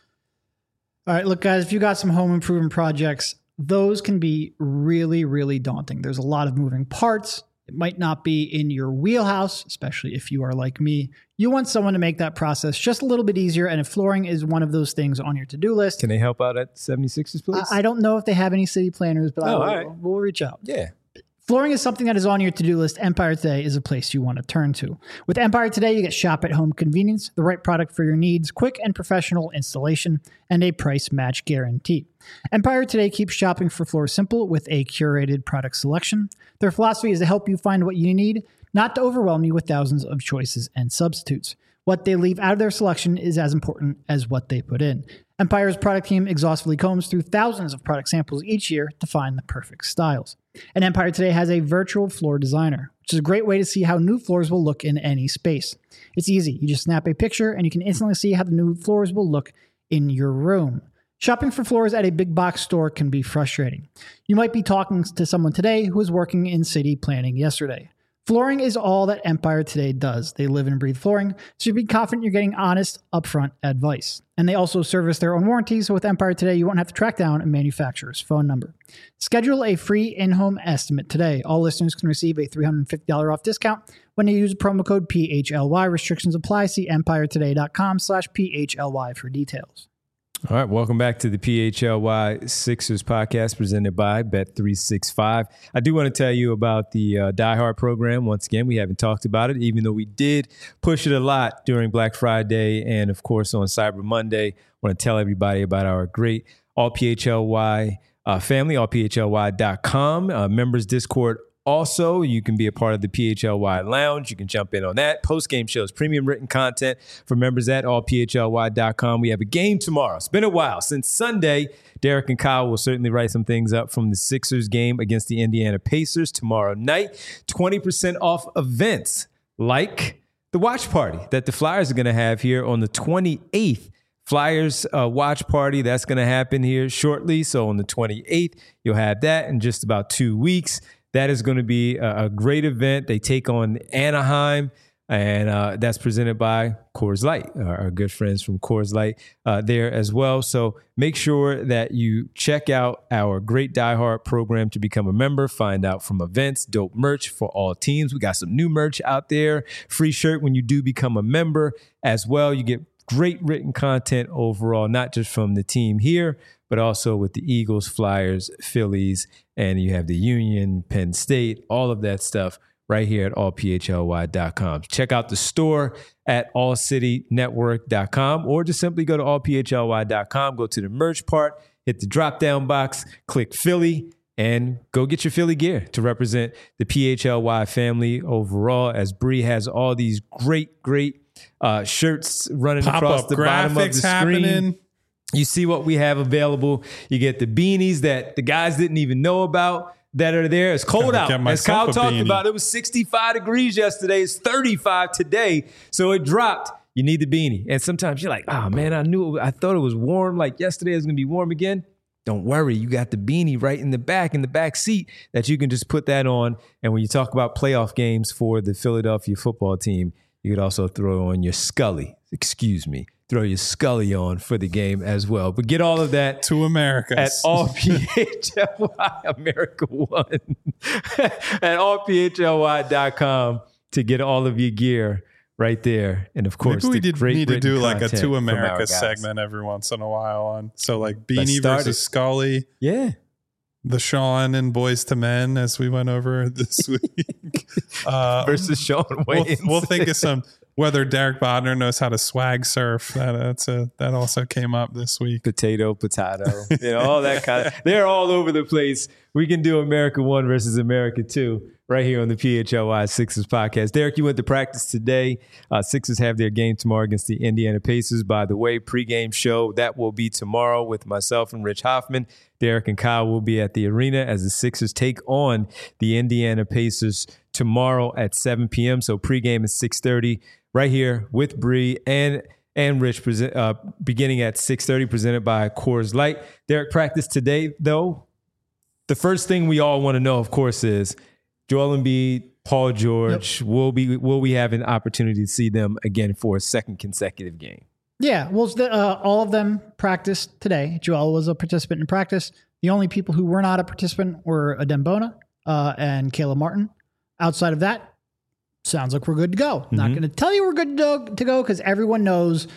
All right, look, guys, if you got some home improvement projects, those can be really, really daunting. There's a lot of moving parts. It might not be in your wheelhouse, especially if you are like me. You want someone to make that process just a little bit easier, and if flooring is one of those things on your to-do list. Can they help out at seventy-sixers, please? I, I don't know if they have any city planners, but Oh, I will, all right. we'll reach out. Yeah. Flooring is something that is on your to-do list. Empire Today is a place you want to turn to. With Empire Today, you get shop-at-home convenience, the right product for your needs, quick and professional installation, and a price match guarantee. Empire Today keeps shopping for floors simple with a curated product selection. Their philosophy is to help you find what you need, not to overwhelm you with thousands of choices and substitutes. What they leave out of their selection is as important as what they put in. Empire's product team exhaustively combs through thousands of product samples each year to find the perfect styles. And Empire Today has a virtual floor designer, which is a great way to see how new floors will look in any space. It's easy. You just snap a picture and you can instantly see how the new floors will look in your room. Shopping for floors at a big box store can be frustrating. You might be talking to someone today who was working in city planning yesterday. Flooring is all that Empire Today does. They live and breathe flooring, so you be confident you're getting honest, upfront advice. And they also service their own warranty, so with Empire Today, you won't have to track down a manufacturer's phone number. Schedule a free in-home estimate today. All listeners can receive a three hundred fifty dollars off discount when you use promo code P H L Y. Restrictions apply. See empiretoday.com slash PHLY for details. All right, welcome back to the P H L Y Sixers podcast presented by Bet three sixty-five. I do want to tell you about the uh, Die Hard program. Once again, we haven't talked about it, even though we did push it a lot during Black Friday and, of course, on Cyber Monday. I want to tell everybody about our great All P H L Y uh, family, all P H L Y dot com, uh, members Discord. Also, you can be a part of the P H L Y Lounge. You can jump in on that. Post-game shows, premium written content for members at all P H L Y dot com. We have a game tomorrow. It's been a while. Since Sunday, Derek and Kyle will certainly write some things up from the Sixers game against the Indiana Pacers tomorrow night. twenty percent off events like the watch party that the Flyers are going to have here on the twenty-eighth. Flyers uh, watch party, that's going to happen here shortly. So on the twenty-eighth, you'll have that in just about two weeks. That is going to be a, a great event. They take on Anaheim, and uh, that's presented by Coors Light, our, our good friends from Coors Light uh, there as well. So make sure that you check out our great Die Hard program to become a member. Find out from events, dope merch for all teams. We got some new merch out there. Free shirt when you do become a member as well. You get great written content overall, not just from the team here, but also with the Eagles, Flyers, Phillies, and you have the Union, Penn State, all of that stuff right here at all p h l y dot com. Check out the store at all city network dot com or just simply go to all p h l y dot com, go to the merch part, hit the drop-down box, click Philly, and go get your Philly gear to represent the P H L Y family overall, as Bree has all these great, great uh, shirts running Pop across up the bottom of the graphics screen. happening. You see what we have available. You get the beanies that the guys didn't even know about that are there. It's cold Gotta out. get As Kyle myself a talked beanie. about, it was sixty-five degrees yesterday. It's thirty-five today. So it dropped. You need the beanie. And sometimes you're like, oh, man, I knew, I thought it was warm. Like yesterday it was going to be warm again. Don't worry. You got the beanie right in the back, in the back seat that you can just put that on. And when you talk about playoff games for the Philadelphia football team, you could also throw on your Scully. Excuse me. Throw your Scully on for the game as well. But get all of that To America. at all P H L Y America One at all p h l y dot com to get all of your gear right there. And of course, maybe we the did great need to written do like a content To from our America guys. segment every once in a while on. So like Let's Beanie start versus it. Scully, Yeah. the Sean and Boys to Men as we went over this week. Uh, Versus Sean we'll, Wayne. we'll think of some whether Derek Bodner knows how to swag surf. That that's a that also came up this week. Potato, potato, you know, all that kind of, they're all over the place. We can do America One versus America Two right here on the P H L Y Sixers podcast. Derek, you went to practice today. Uh, Sixers have their game tomorrow against the Indiana Pacers. By the way, pregame show, that will be tomorrow with myself and Rich Hoffman. Derek and Kyle will be at the arena as the Sixers take on the Indiana Pacers tomorrow at seven p.m. So pregame is six thirty right here with Bree and and Rich, present, uh, beginning at six thirty, presented by Coors Light. Derek, practice today, though. The first thing we all want to know, of course, is Joel Embiid, Paul George. Yep. Will be will we have an opportunity to see them again for a second consecutive game? Yeah, well, the, uh, all of them practiced today. Joel was a participant in practice. The only people who were not a participant were Adem Bona uh, and Caleb Martin. Outside of that, sounds like we're good to go. Mm-hmm. Not going to tell you we're good to go because everyone knows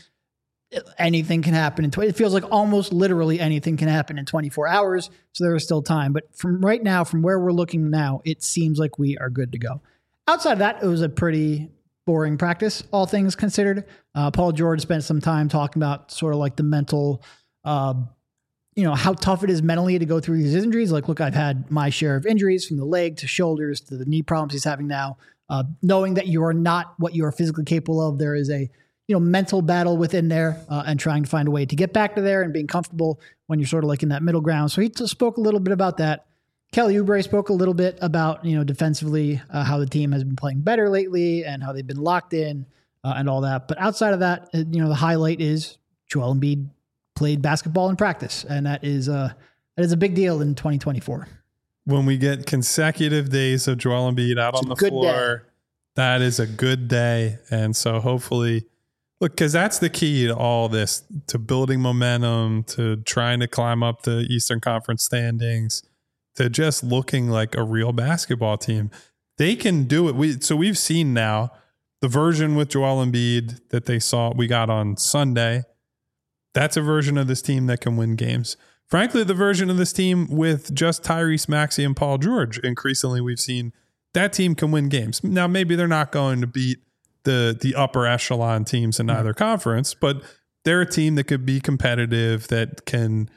anything can happen in twenty. It feels like almost literally anything can happen in twenty-four hours. So there is still time. But from right now, from where we're looking now, it seems like we are good to go. Outside of that, it was a pretty boring practice, all things considered. Uh, Paul George spent some time talking about sort of like the mental, uh, you know, how tough it is mentally to go through these injuries. Like, look, I've had my share of injuries from the leg to shoulders to the knee problems he's having now. Uh, knowing that you are not what you are physically capable of, there is a, you know, mental battle within there uh, and trying to find a way to get back to there and being comfortable when you're sort of like in that middle ground. So he t- spoke a little bit about that. Kelly Oubre spoke a little bit about, you know, defensively, uh, how the team has been playing better lately and how they've been locked in uh, and all that. But outside of that, you know, the highlight is Joel Embiid played basketball in practice. And that is, uh, that is a big deal in twenty twenty-four. When we get consecutive days of Joel Embiid out It's on the a good floor, day. That is a good day. And so hopefully, look, because that's the key to all this, to building momentum, to trying to climb up the Eastern Conference standings, to just looking like a real basketball team. They can do it. We So we've seen now the version with Joel Embiid that they saw, we got on Sunday. That's a version of this team that can win games. Frankly, the version of this team with just Tyrese Maxey and Paul George, increasingly we've seen that team can win games. Now, maybe they're not going to beat the the upper echelon teams in either conference, but they're a team that could be competitive, that can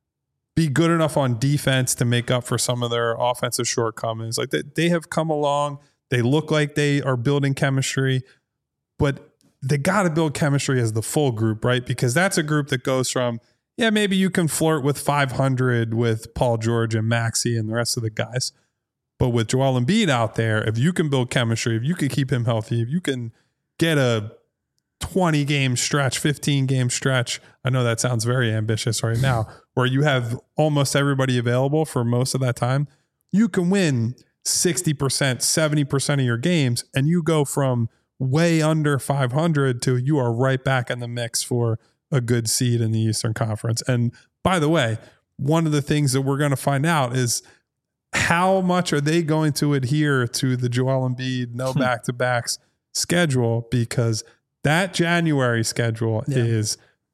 be good enough on defense to make up for some of their offensive shortcomings. Like they, they have come along. They look like they are building chemistry, but they got to build chemistry as the full group, right? Because that's a group that goes from, yeah, maybe you can flirt with five hundred with Paul George and Maxey and the rest of the guys. But with Joel Embiid out there, if you can build chemistry, if you can keep him healthy, if you can get a twenty game stretch, fifteen game stretch. I know that sounds very ambitious right now, where you have almost everybody available for most of that time. You can win sixty percent, seventy percent of your games, and you go from way under five hundred to you are right back in the mix for a good seed in the Eastern Conference. And by the way, one of the things that we're going to find out is how much are they going to adhere to the Joel Embiid no back-to-backs schedule, because that January schedule yeah. is,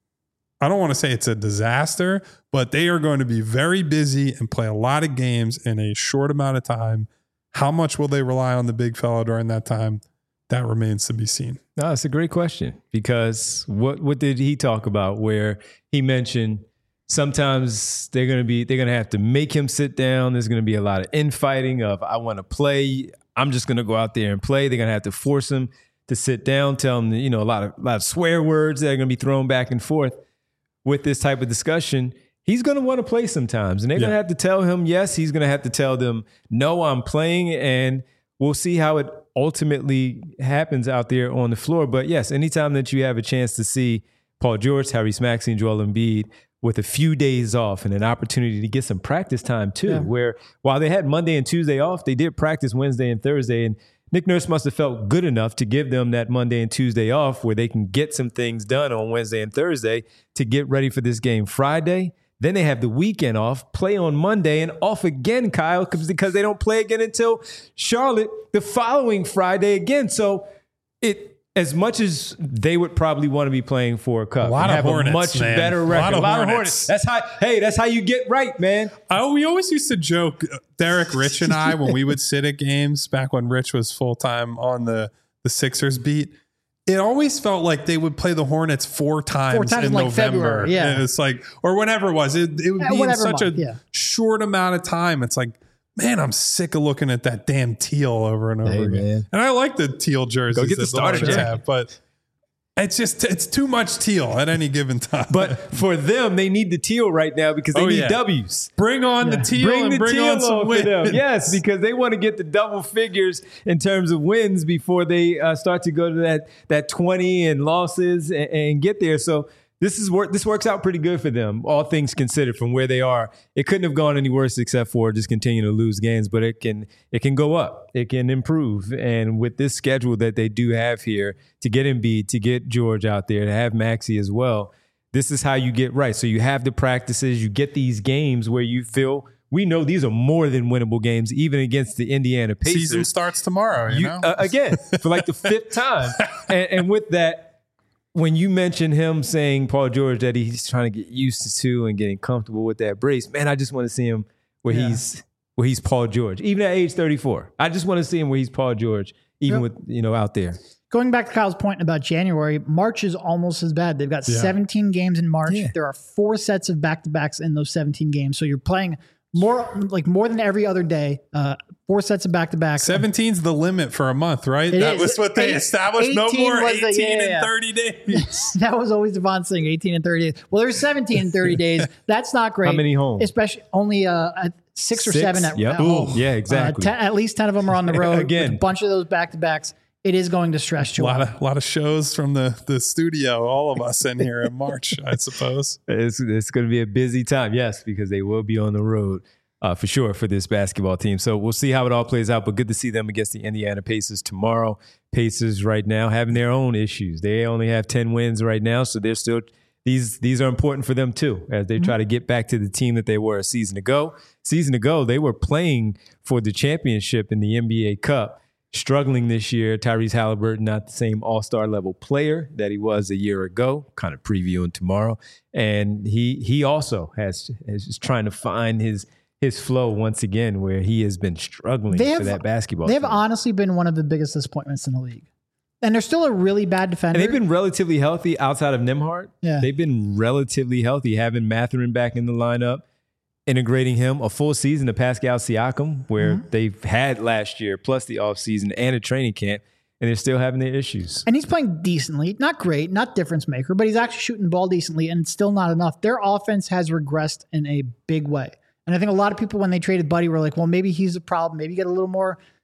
I don't want to say it's a disaster, but they are going to be very busy and play a lot of games in a short amount of time. How much will they rely on the big fella during that time? That remains to be seen. No, it's a great question, because what what did he talk about where he mentioned sometimes they're going to be they're going to have to make him sit down. There's going to be a lot of infighting of I want to play. I'm just going to go out there and play. They're going to have to force him to sit down, tell him, you know, a lot of a lot of swear words that are going to be thrown back and forth with this type of discussion. He's going to want to play sometimes, and they're yeah. going to have to tell him yes. He's going to have to tell them no, I'm playing, and we'll see how it ultimately happens out there on the floor. But yes, anytime that you have a chance to see Paul George, Tyrese Maxey, and Joel Embiid with a few days off and an opportunity to get some practice time too, yeah. where while they had Monday and Tuesday off, they did practice Wednesday and Thursday. And Nick Nurse must have felt good enough to give them that Monday and Tuesday off where they can get some things done on Wednesday and Thursday to get ready for this game Friday. Then they have the weekend off, play on Monday, and off again, Kyle, because they don't play again until Charlotte the following Friday again. So it, as much as they would probably want to be playing for a cup, a lot and of have Hornets, a much man. better record, a lot of, a lot Hornets. of Hornets. That's how. Hey, that's how you get right, man. Oh, we always used to joke, Derek, Rich, and I, when we would sit at games back when Rich was full time on the the Sixers beat. It always felt like they would play the Hornets four times, four times in like November. February, yeah. And it's like, or whenever it was. It, it would Yeah, be in month, such a yeah. short amount of time. It's like, man, I'm sick of looking at that damn teal over and over Hey, again. man. And I like the teal jerseys. Go get the that starter Hornets jacket. have, but it's just, it's too much teal at any given time. But for them, they need the teal right now because they Oh, need yeah. W's. bring on Yeah. the teal Bring and the bring teal on some on for them. wins. Yes, because they want to get the double figures in terms of wins before they uh, start to go to that that twenty and losses and, and get there. So this is work. This works out pretty good for them, all things considered, from where they are. It couldn't have gone any worse except for just continuing to lose games, but it can it can go up. It can improve. And with this schedule that they do have here, to get Embiid, to get George out there, to have Maxey as well, this is how you get right. So you have the practices, you get these games where you feel, we know these are more than winnable games, even against the Indiana Pacers. Season starts tomorrow, you, You, know? uh, again, for like the fifth time. And, and with that, when you mention him saying, Paul George, that he's trying to get used to and getting comfortable with that brace, man, I just want to see him where Yeah. he's where he's Paul George, even at age thirty-four. I just want to see him where he's Paul George, even Yep. with, you know, out there. Going back to Kyle's point about January, March is almost as bad. They've got Yeah. seventeen games in March. Yeah. There are four sets of back-to-backs in those seventeen games. So you're playing more, like more than every other day. Uh, four sets of back-to-backs. seventeen's the limit for a month, right? It that is. was what they Eight- established. No eighteen more was the- eighteen yeah, yeah. in thirty days. That was always Devon's thing, eighteen and thirty days. Well, there's seventeen and thirty days. That's not great. How many home? Especially only uh, at six or Six? seven at, Yep. at home. Yeah, exactly. Uh, ten, at least ten of them are on the road. Again. With a bunch of those back-to-backs. It is going to stress A Joel. lot of lot of shows from the the studio. All of us in here in March, I suppose. It's, it's going to be a busy time, yes, because they will be on the road uh, for sure for this basketball team. So we'll see how it all plays out, but good to see them against the Indiana Pacers tomorrow. Pacers right now having their own issues. They only have ten wins right now, so they're still these these are important for them too as they try to get back to the team that they were a season ago. Season ago, they were playing for the championship in the N B A Cup. Struggling this year, Tyrese Halliburton, not the same all-star level player that he was a year ago, kind of previewing tomorrow. And he he also has is trying to find his his flow once again, where he has been struggling They have- for that basketball They have team. honestly been one of the biggest disappointments in the league. And they're still a really bad defender. And they've been relatively healthy outside of Nembhard. Yeah. They've been relatively healthy, having Mathurin back in the lineup, integrating him a full season to Pascal Siakam, where Mm-hmm. they've had last year, plus the offseason and a training camp, and they're still having their issues. And he's playing decently, not great, not difference maker, but he's actually shooting the ball decently, and it's still not enough. Their offense has regressed in a big way. And I think a lot of people, when they traded Buddy, were like, well, maybe he's a problem. Maybe get a little more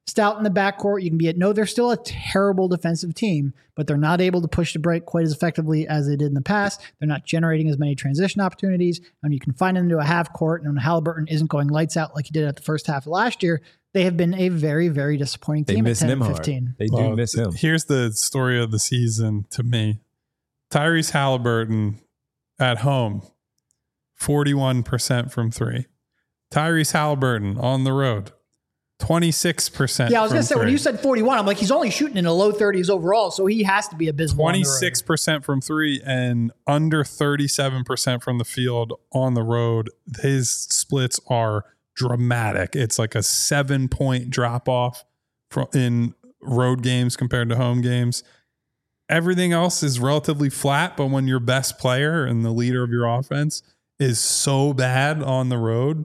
stout in the backcourt. You can be at no, they're still a terrible defensive team, but they're not able to push the break quite as effectively as they did in the past. They're not generating as many transition opportunities. And you can find them into a half court, and when Halliburton isn't going lights out like he did at the first half of last year, they have been a very, very disappointing They team miss at ten Nembhard. and fifteen. They do Well, miss him. Here's the story of the season to me. Tyrese Halliburton at home, forty-one percent from three. Tyrese Halliburton on the road, twenty-six percent. Yeah, I was going to say, three. when you said forty-one, I'm like, he's only shooting in the low thirties overall, so he has to be abysmal on the road. twenty-six percent from three and under thirty-seven percent from the field on the road. His splits are dramatic. It's like a seven point drop off from in road games compared to home games. Everything else is relatively flat, but when your best player and the leader of your offense is so bad on the road,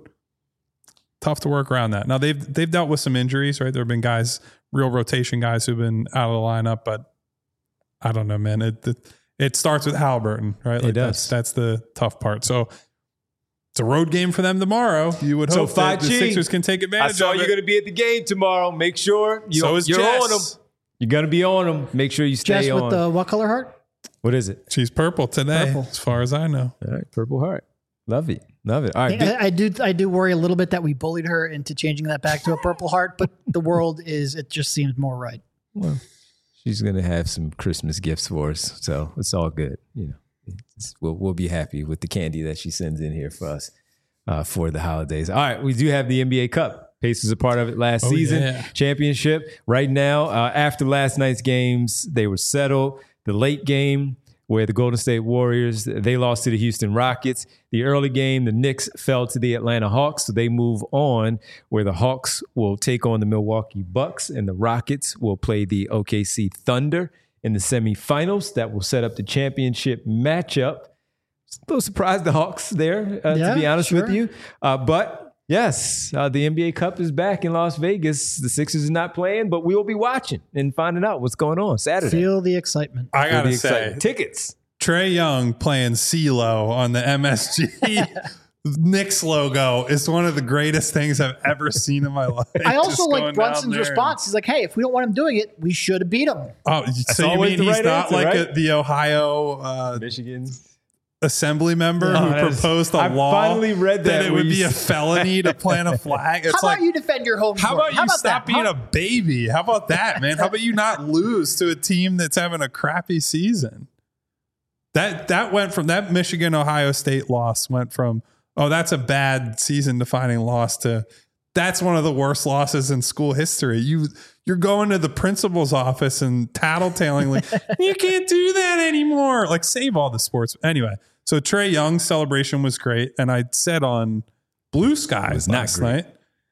tough to work around that. Now they've they've dealt with some injuries, right? There have been guys, real rotation guys who've been out of the lineup, but I don't know, man. It it, it starts with Halliburton, right? Like It does. That's, that's the tough part. So it's a road game for them tomorrow. You would So hope that the five G, Sixers can take I advantage saw of you're it. going to be at the game tomorrow. Make sure you, So is you're Jess. on them. You're going to be on them. Make sure you stay Jess on. with the what color heart? What is it? She's purple today, Purple. as far as I know. All right, Purple Heart. Love it. Love it. All right. I, I do I do worry a little bit that we bullied her into changing that back to a purple heart, but the world is, it just seems more right. Well, she's going to have some Christmas gifts for us, so it's all good. You know, it's, we'll, we'll be happy with the candy that she sends in here for us uh, for the holidays. All right, we do have the N B A Cup. Pacers are part of it last Oh, season. yeah. Championship. Right now, uh, after last night's games, they were settled. The late game, where the Golden State Warriors, they lost to the Houston Rockets. The early game, the Knicks fell to the Atlanta Hawks, so they move on, where the Hawks will take on the Milwaukee Bucks, and the Rockets will play the O K C Thunder in the semifinals. That will set up the championship matchup. A little surprised the Hawks there, uh, Yeah, to be honest sure. with you. Uh, but yes, uh, the N B A Cup is back in Las Vegas. The Sixers are not playing, but we will be watching and finding out what's going on Saturday. Feel the excitement. I Feel gotta the say, excitement. Tickets. Trey Young playing CeeLo on the M S G Knicks logo is one of the greatest things I've ever seen in my life. I also Just like going Brunson's down there response. He's like, hey, if we don't want him doing it, we should have beat him. and- oh, so you always mean the he's right not answer, like right? a, the Ohio uh, Michigan. assembly member Oh, who that's- proposed a I law finally read that it where would you be a s- felony to plant a flag? It's How like, about you defend your home how court? about you stop that? being Huh? a baby? How about that, man? How about you not lose to a team that's having a crappy season? That that went from that Michigan Ohio State loss went from, oh, that's a bad season defining loss to that's one of the worst losses in school history. You you're going to the principal's office and tattletaling like you can't do that anymore. Like save all the sports. Anyway, so Trey Young's celebration was great, and I said on Blue Sky was not last great. night,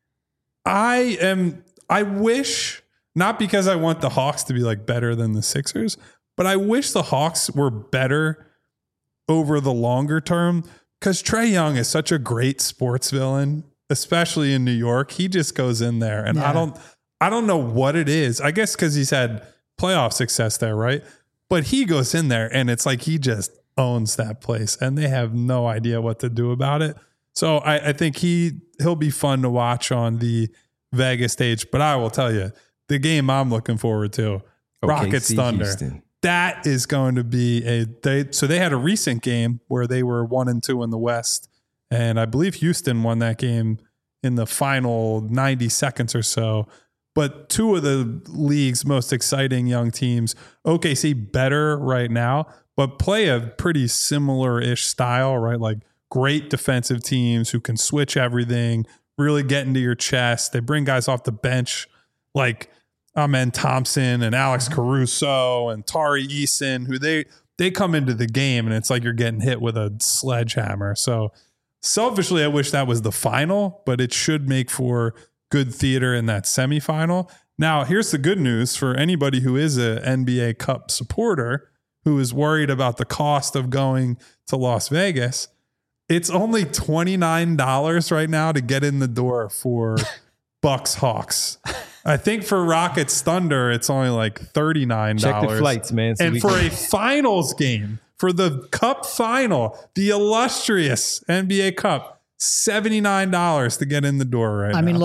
I am I wish, not because I want the Hawks to be like better than the Sixers, but I wish the Hawks were better over the longer term, because Trey Young is such a great sports villain, especially in New York. He just goes in there, and Yeah. I don't I don't know what it is. I guess because he's had playoff success there, right? But he goes in there and it's like he just owns that place, and they have no idea what to do about it. So I, I think he he'll be fun to watch on the Vegas stage. But I will tell you, the game I'm looking forward to, Rockets O K C Thunder. Houston. That is going to be a they so they had a recent game where they were one and two in the West, and I believe Houston won that game in the final ninety seconds or so. But two of the league's most exciting young teams, O K C better right now, but play a pretty similar-ish style, right? Like great defensive teams who can switch everything, really get into your chest. They bring guys off the bench like Amen Thompson and Alex Caruso and Tari Eason, who they they come into the game and it's like you're getting hit with a sledgehammer. So selfishly, I wish that was the final, but it should make for good theater in that semifinal. Now, here's the good news for anybody who is a N B A Cup supporter who is worried about the cost of going to Las Vegas. It's only twenty-nine dollars right now to get in the door for Bucks Hawks. I think for Rockets Thunder, it's only like thirty-nine dollars. Check the flights, man. so And we for can- a finals game, for the Cup final, the illustrious N B A Cup, seventy-nine dollars to get in the door right now. I mean, look,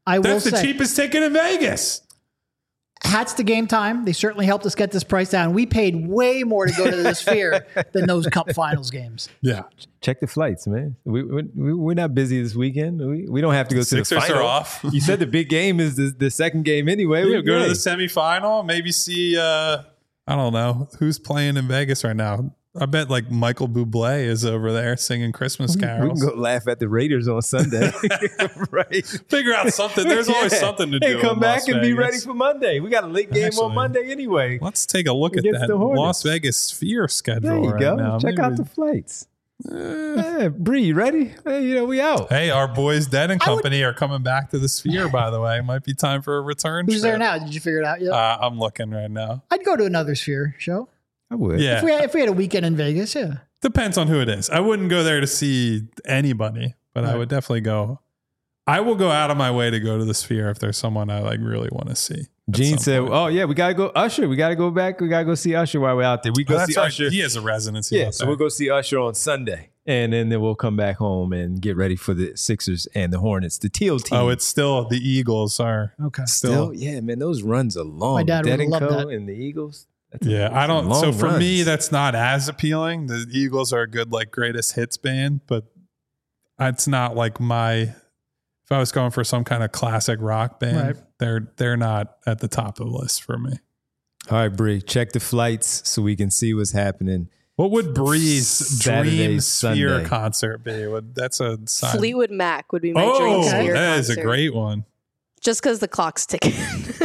I will That's the say, cheapest ticket in Vegas. hats to Game Time. They certainly helped us get this price down. We paid way more to go to the Sphere than those Cup Finals games. Yeah. Check the flights, man. We, we, we're not busy this weekend. We, we don't have to go to the Sixers final. are off. You said the big game is the, the second game anyway. Yeah, We're go to great. the semifinal. Maybe see, uh, I don't know, who's playing in Vegas right now. I bet like Michael Bublé is over there singing Christmas We carols. can go laugh at the Raiders on Sunday. Right. Figure out something. There's always Yeah. something to Hey, do. come in back Las and be Vegas. ready for Monday. We got a late game Actually, on Monday anyway. Let's take a look at Against that the Hornets. Las Vegas Sphere schedule There you right go. now. Check Maybe out we- the flights. Yeah, Bree, you ready? Hey, you know, we out. Hey, our boys Dead and I would- Company are coming back to the Sphere, by the way. Might be time for a return Who's trip. there now? Did you figure it out yet? Uh, I'm looking right now. I'd go to another Sphere show. I would. Yeah. If we, had, if we had a weekend in Vegas, yeah. Depends on who it is. I wouldn't go there to see anybody, but I Right. would definitely go. I will go out of my way to go to the Sphere if there's someone I like really want to see. at Gene some said, point. "Oh yeah, we gotta go Usher. We gotta go back. We gotta go see Usher while we're out there. We Oh, go that's see right. Usher. He has a residency. Yeah, out so there. we'll go see Usher on Sunday, and then, then we'll come back home and get ready for the Sixers and the Hornets, the Teal team. Oh, it's still the Eagles are. Okay. still, yeah, man. Those runs are long. My dad Dead would and love Co. that. and the Eagles. That's Yeah, I don't. long So for me, runs. that's not as appealing. The Eagles are a good like greatest hits band, but it's not like my. If I was going for some kind of classic rock band, Right. they're they're not at the top of the list for me. All right, Bree, check the flights so we can see what's happening. What would Bree's Saturday, dream Sphere Sunday. concert be? Would that's a sign. Fleetwood Mac would be my Oh, dream Okay. Sphere that is a concert. great one. Just because the clock's ticking.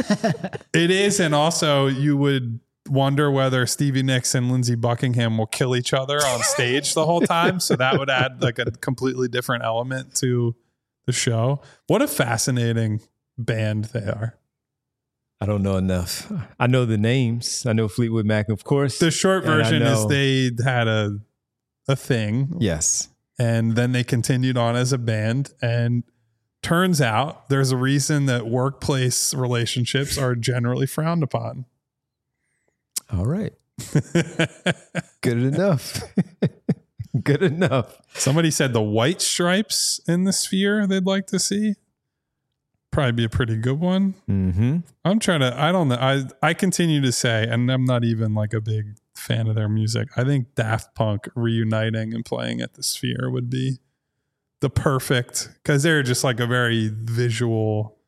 It is, and also you would wonder whether Stevie Nicks and Lindsey Buckingham will kill each other on stage the whole time. So that would add like a completely different element to the show. What a fascinating band they are. I don't know enough. I know the names. I know Fleetwood Mac, of course. The short And I version is know- they had a a thing, Yes. and then they continued on as a band. And turns out there's a reason that workplace relationships are generally frowned upon. All right. Good enough. Good enough. Somebody said the White Stripes in the Sphere they'd like to see. Probably be a pretty good one. Mm-hmm. I'm trying to, I don't know. I, I continue to say, and I'm not even like a big fan of their music. I think Daft Punk reuniting and playing at the Sphere would be the perfect, because they're just like a very visual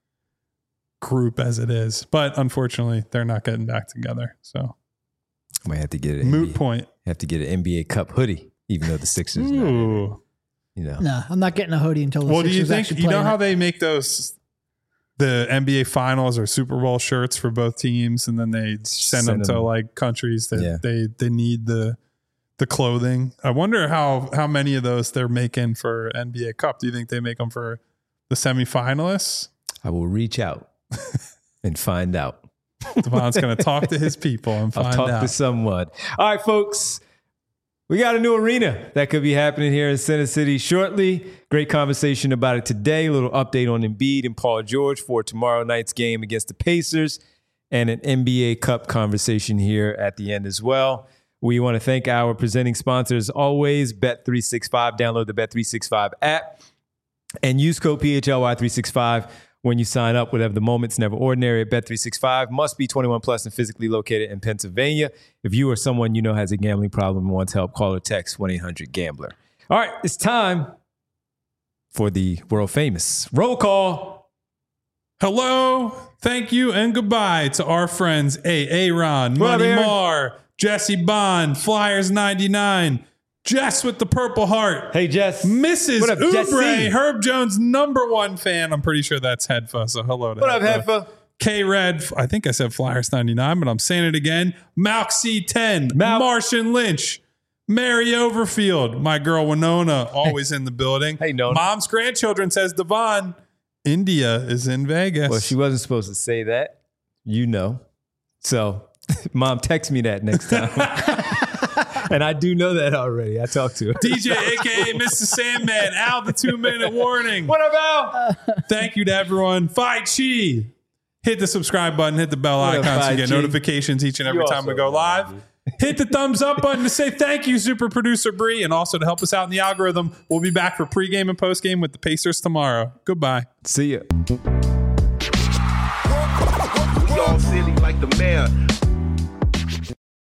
group as it is. But unfortunately, they're not getting back together. So Might have to get an moot N B A, point. have to get an N B A Cup hoodie, even though the Sixers, not in it, Ooh. you know. No, I'm not getting a hoodie until the Well, do you Sixers think, actually you play know in how it. they make those, the N B A finals or Super Bowl shirts for both teams, and then they send, Send them to them. like countries that Yeah. they, they need the, the clothing. I wonder how, how many of those they're making for N B A Cup. Do you think they make them for the semifinalists? I will reach out and find out. Devon's going to talk to his people and I'll find talk out. to someone. All right, folks. We got a new arena that could be happening here in Center City shortly. Great conversation about it today. A little update on Embiid and Paul George for tomorrow night's game against the Pacers, and an N B A Cup conversation here at the end as well. We want to thank our presenting sponsors always, Bet three sixty-five. Download the Bet three sixty-five app and use code P H L Y three sixty-five when you sign up. Whatever the moment's never ordinary at Bet three sixty-five. Must be twenty-one plus and physically located in Pennsylvania. If you or someone you know has a gambling problem and wants help, call or text one eight hundred gambler. All right, it's time for the world famous roll call. Hello, thank you, and goodbye to our friends A. Aaron, What up, Money Aaron? Marr, Jesse Bond, Flyers ninety-nine, Jess with the Purple Heart, Hey, Jess. Missus What up, Oubre, Jesse? Herb Jones' number one fan. I'm pretty sure that's Hedfa, so hello to What up, Hedfa. Heffa? K-Red, I think I said Flyers ninety-nine, but I'm saying it again. Malk C ten, Malk. Martian Lynch, Mary Overfield, my girl Winona, always in the building. Hey, Nona. Mom's grandchildren, says Devon. India is in Vegas. Well, she wasn't supposed to say that. You know. So, Mom, text me that next time. And I do know that already. I talked to her. D J, a k a. Mister Sandman, Al, the two-minute warning. What up, Al? Thank you to everyone. Fi Chi. Hit the subscribe button, hit the bell What up, icon so Fi you get Chi? notifications each and every You time we also go know, live. dude. Hit the thumbs up button to say thank you, super producer Bree, and also to help us out in the algorithm. We'll be back for pregame and postgame with the Pacers tomorrow. Goodbye. See ya. We all silly like the mayor.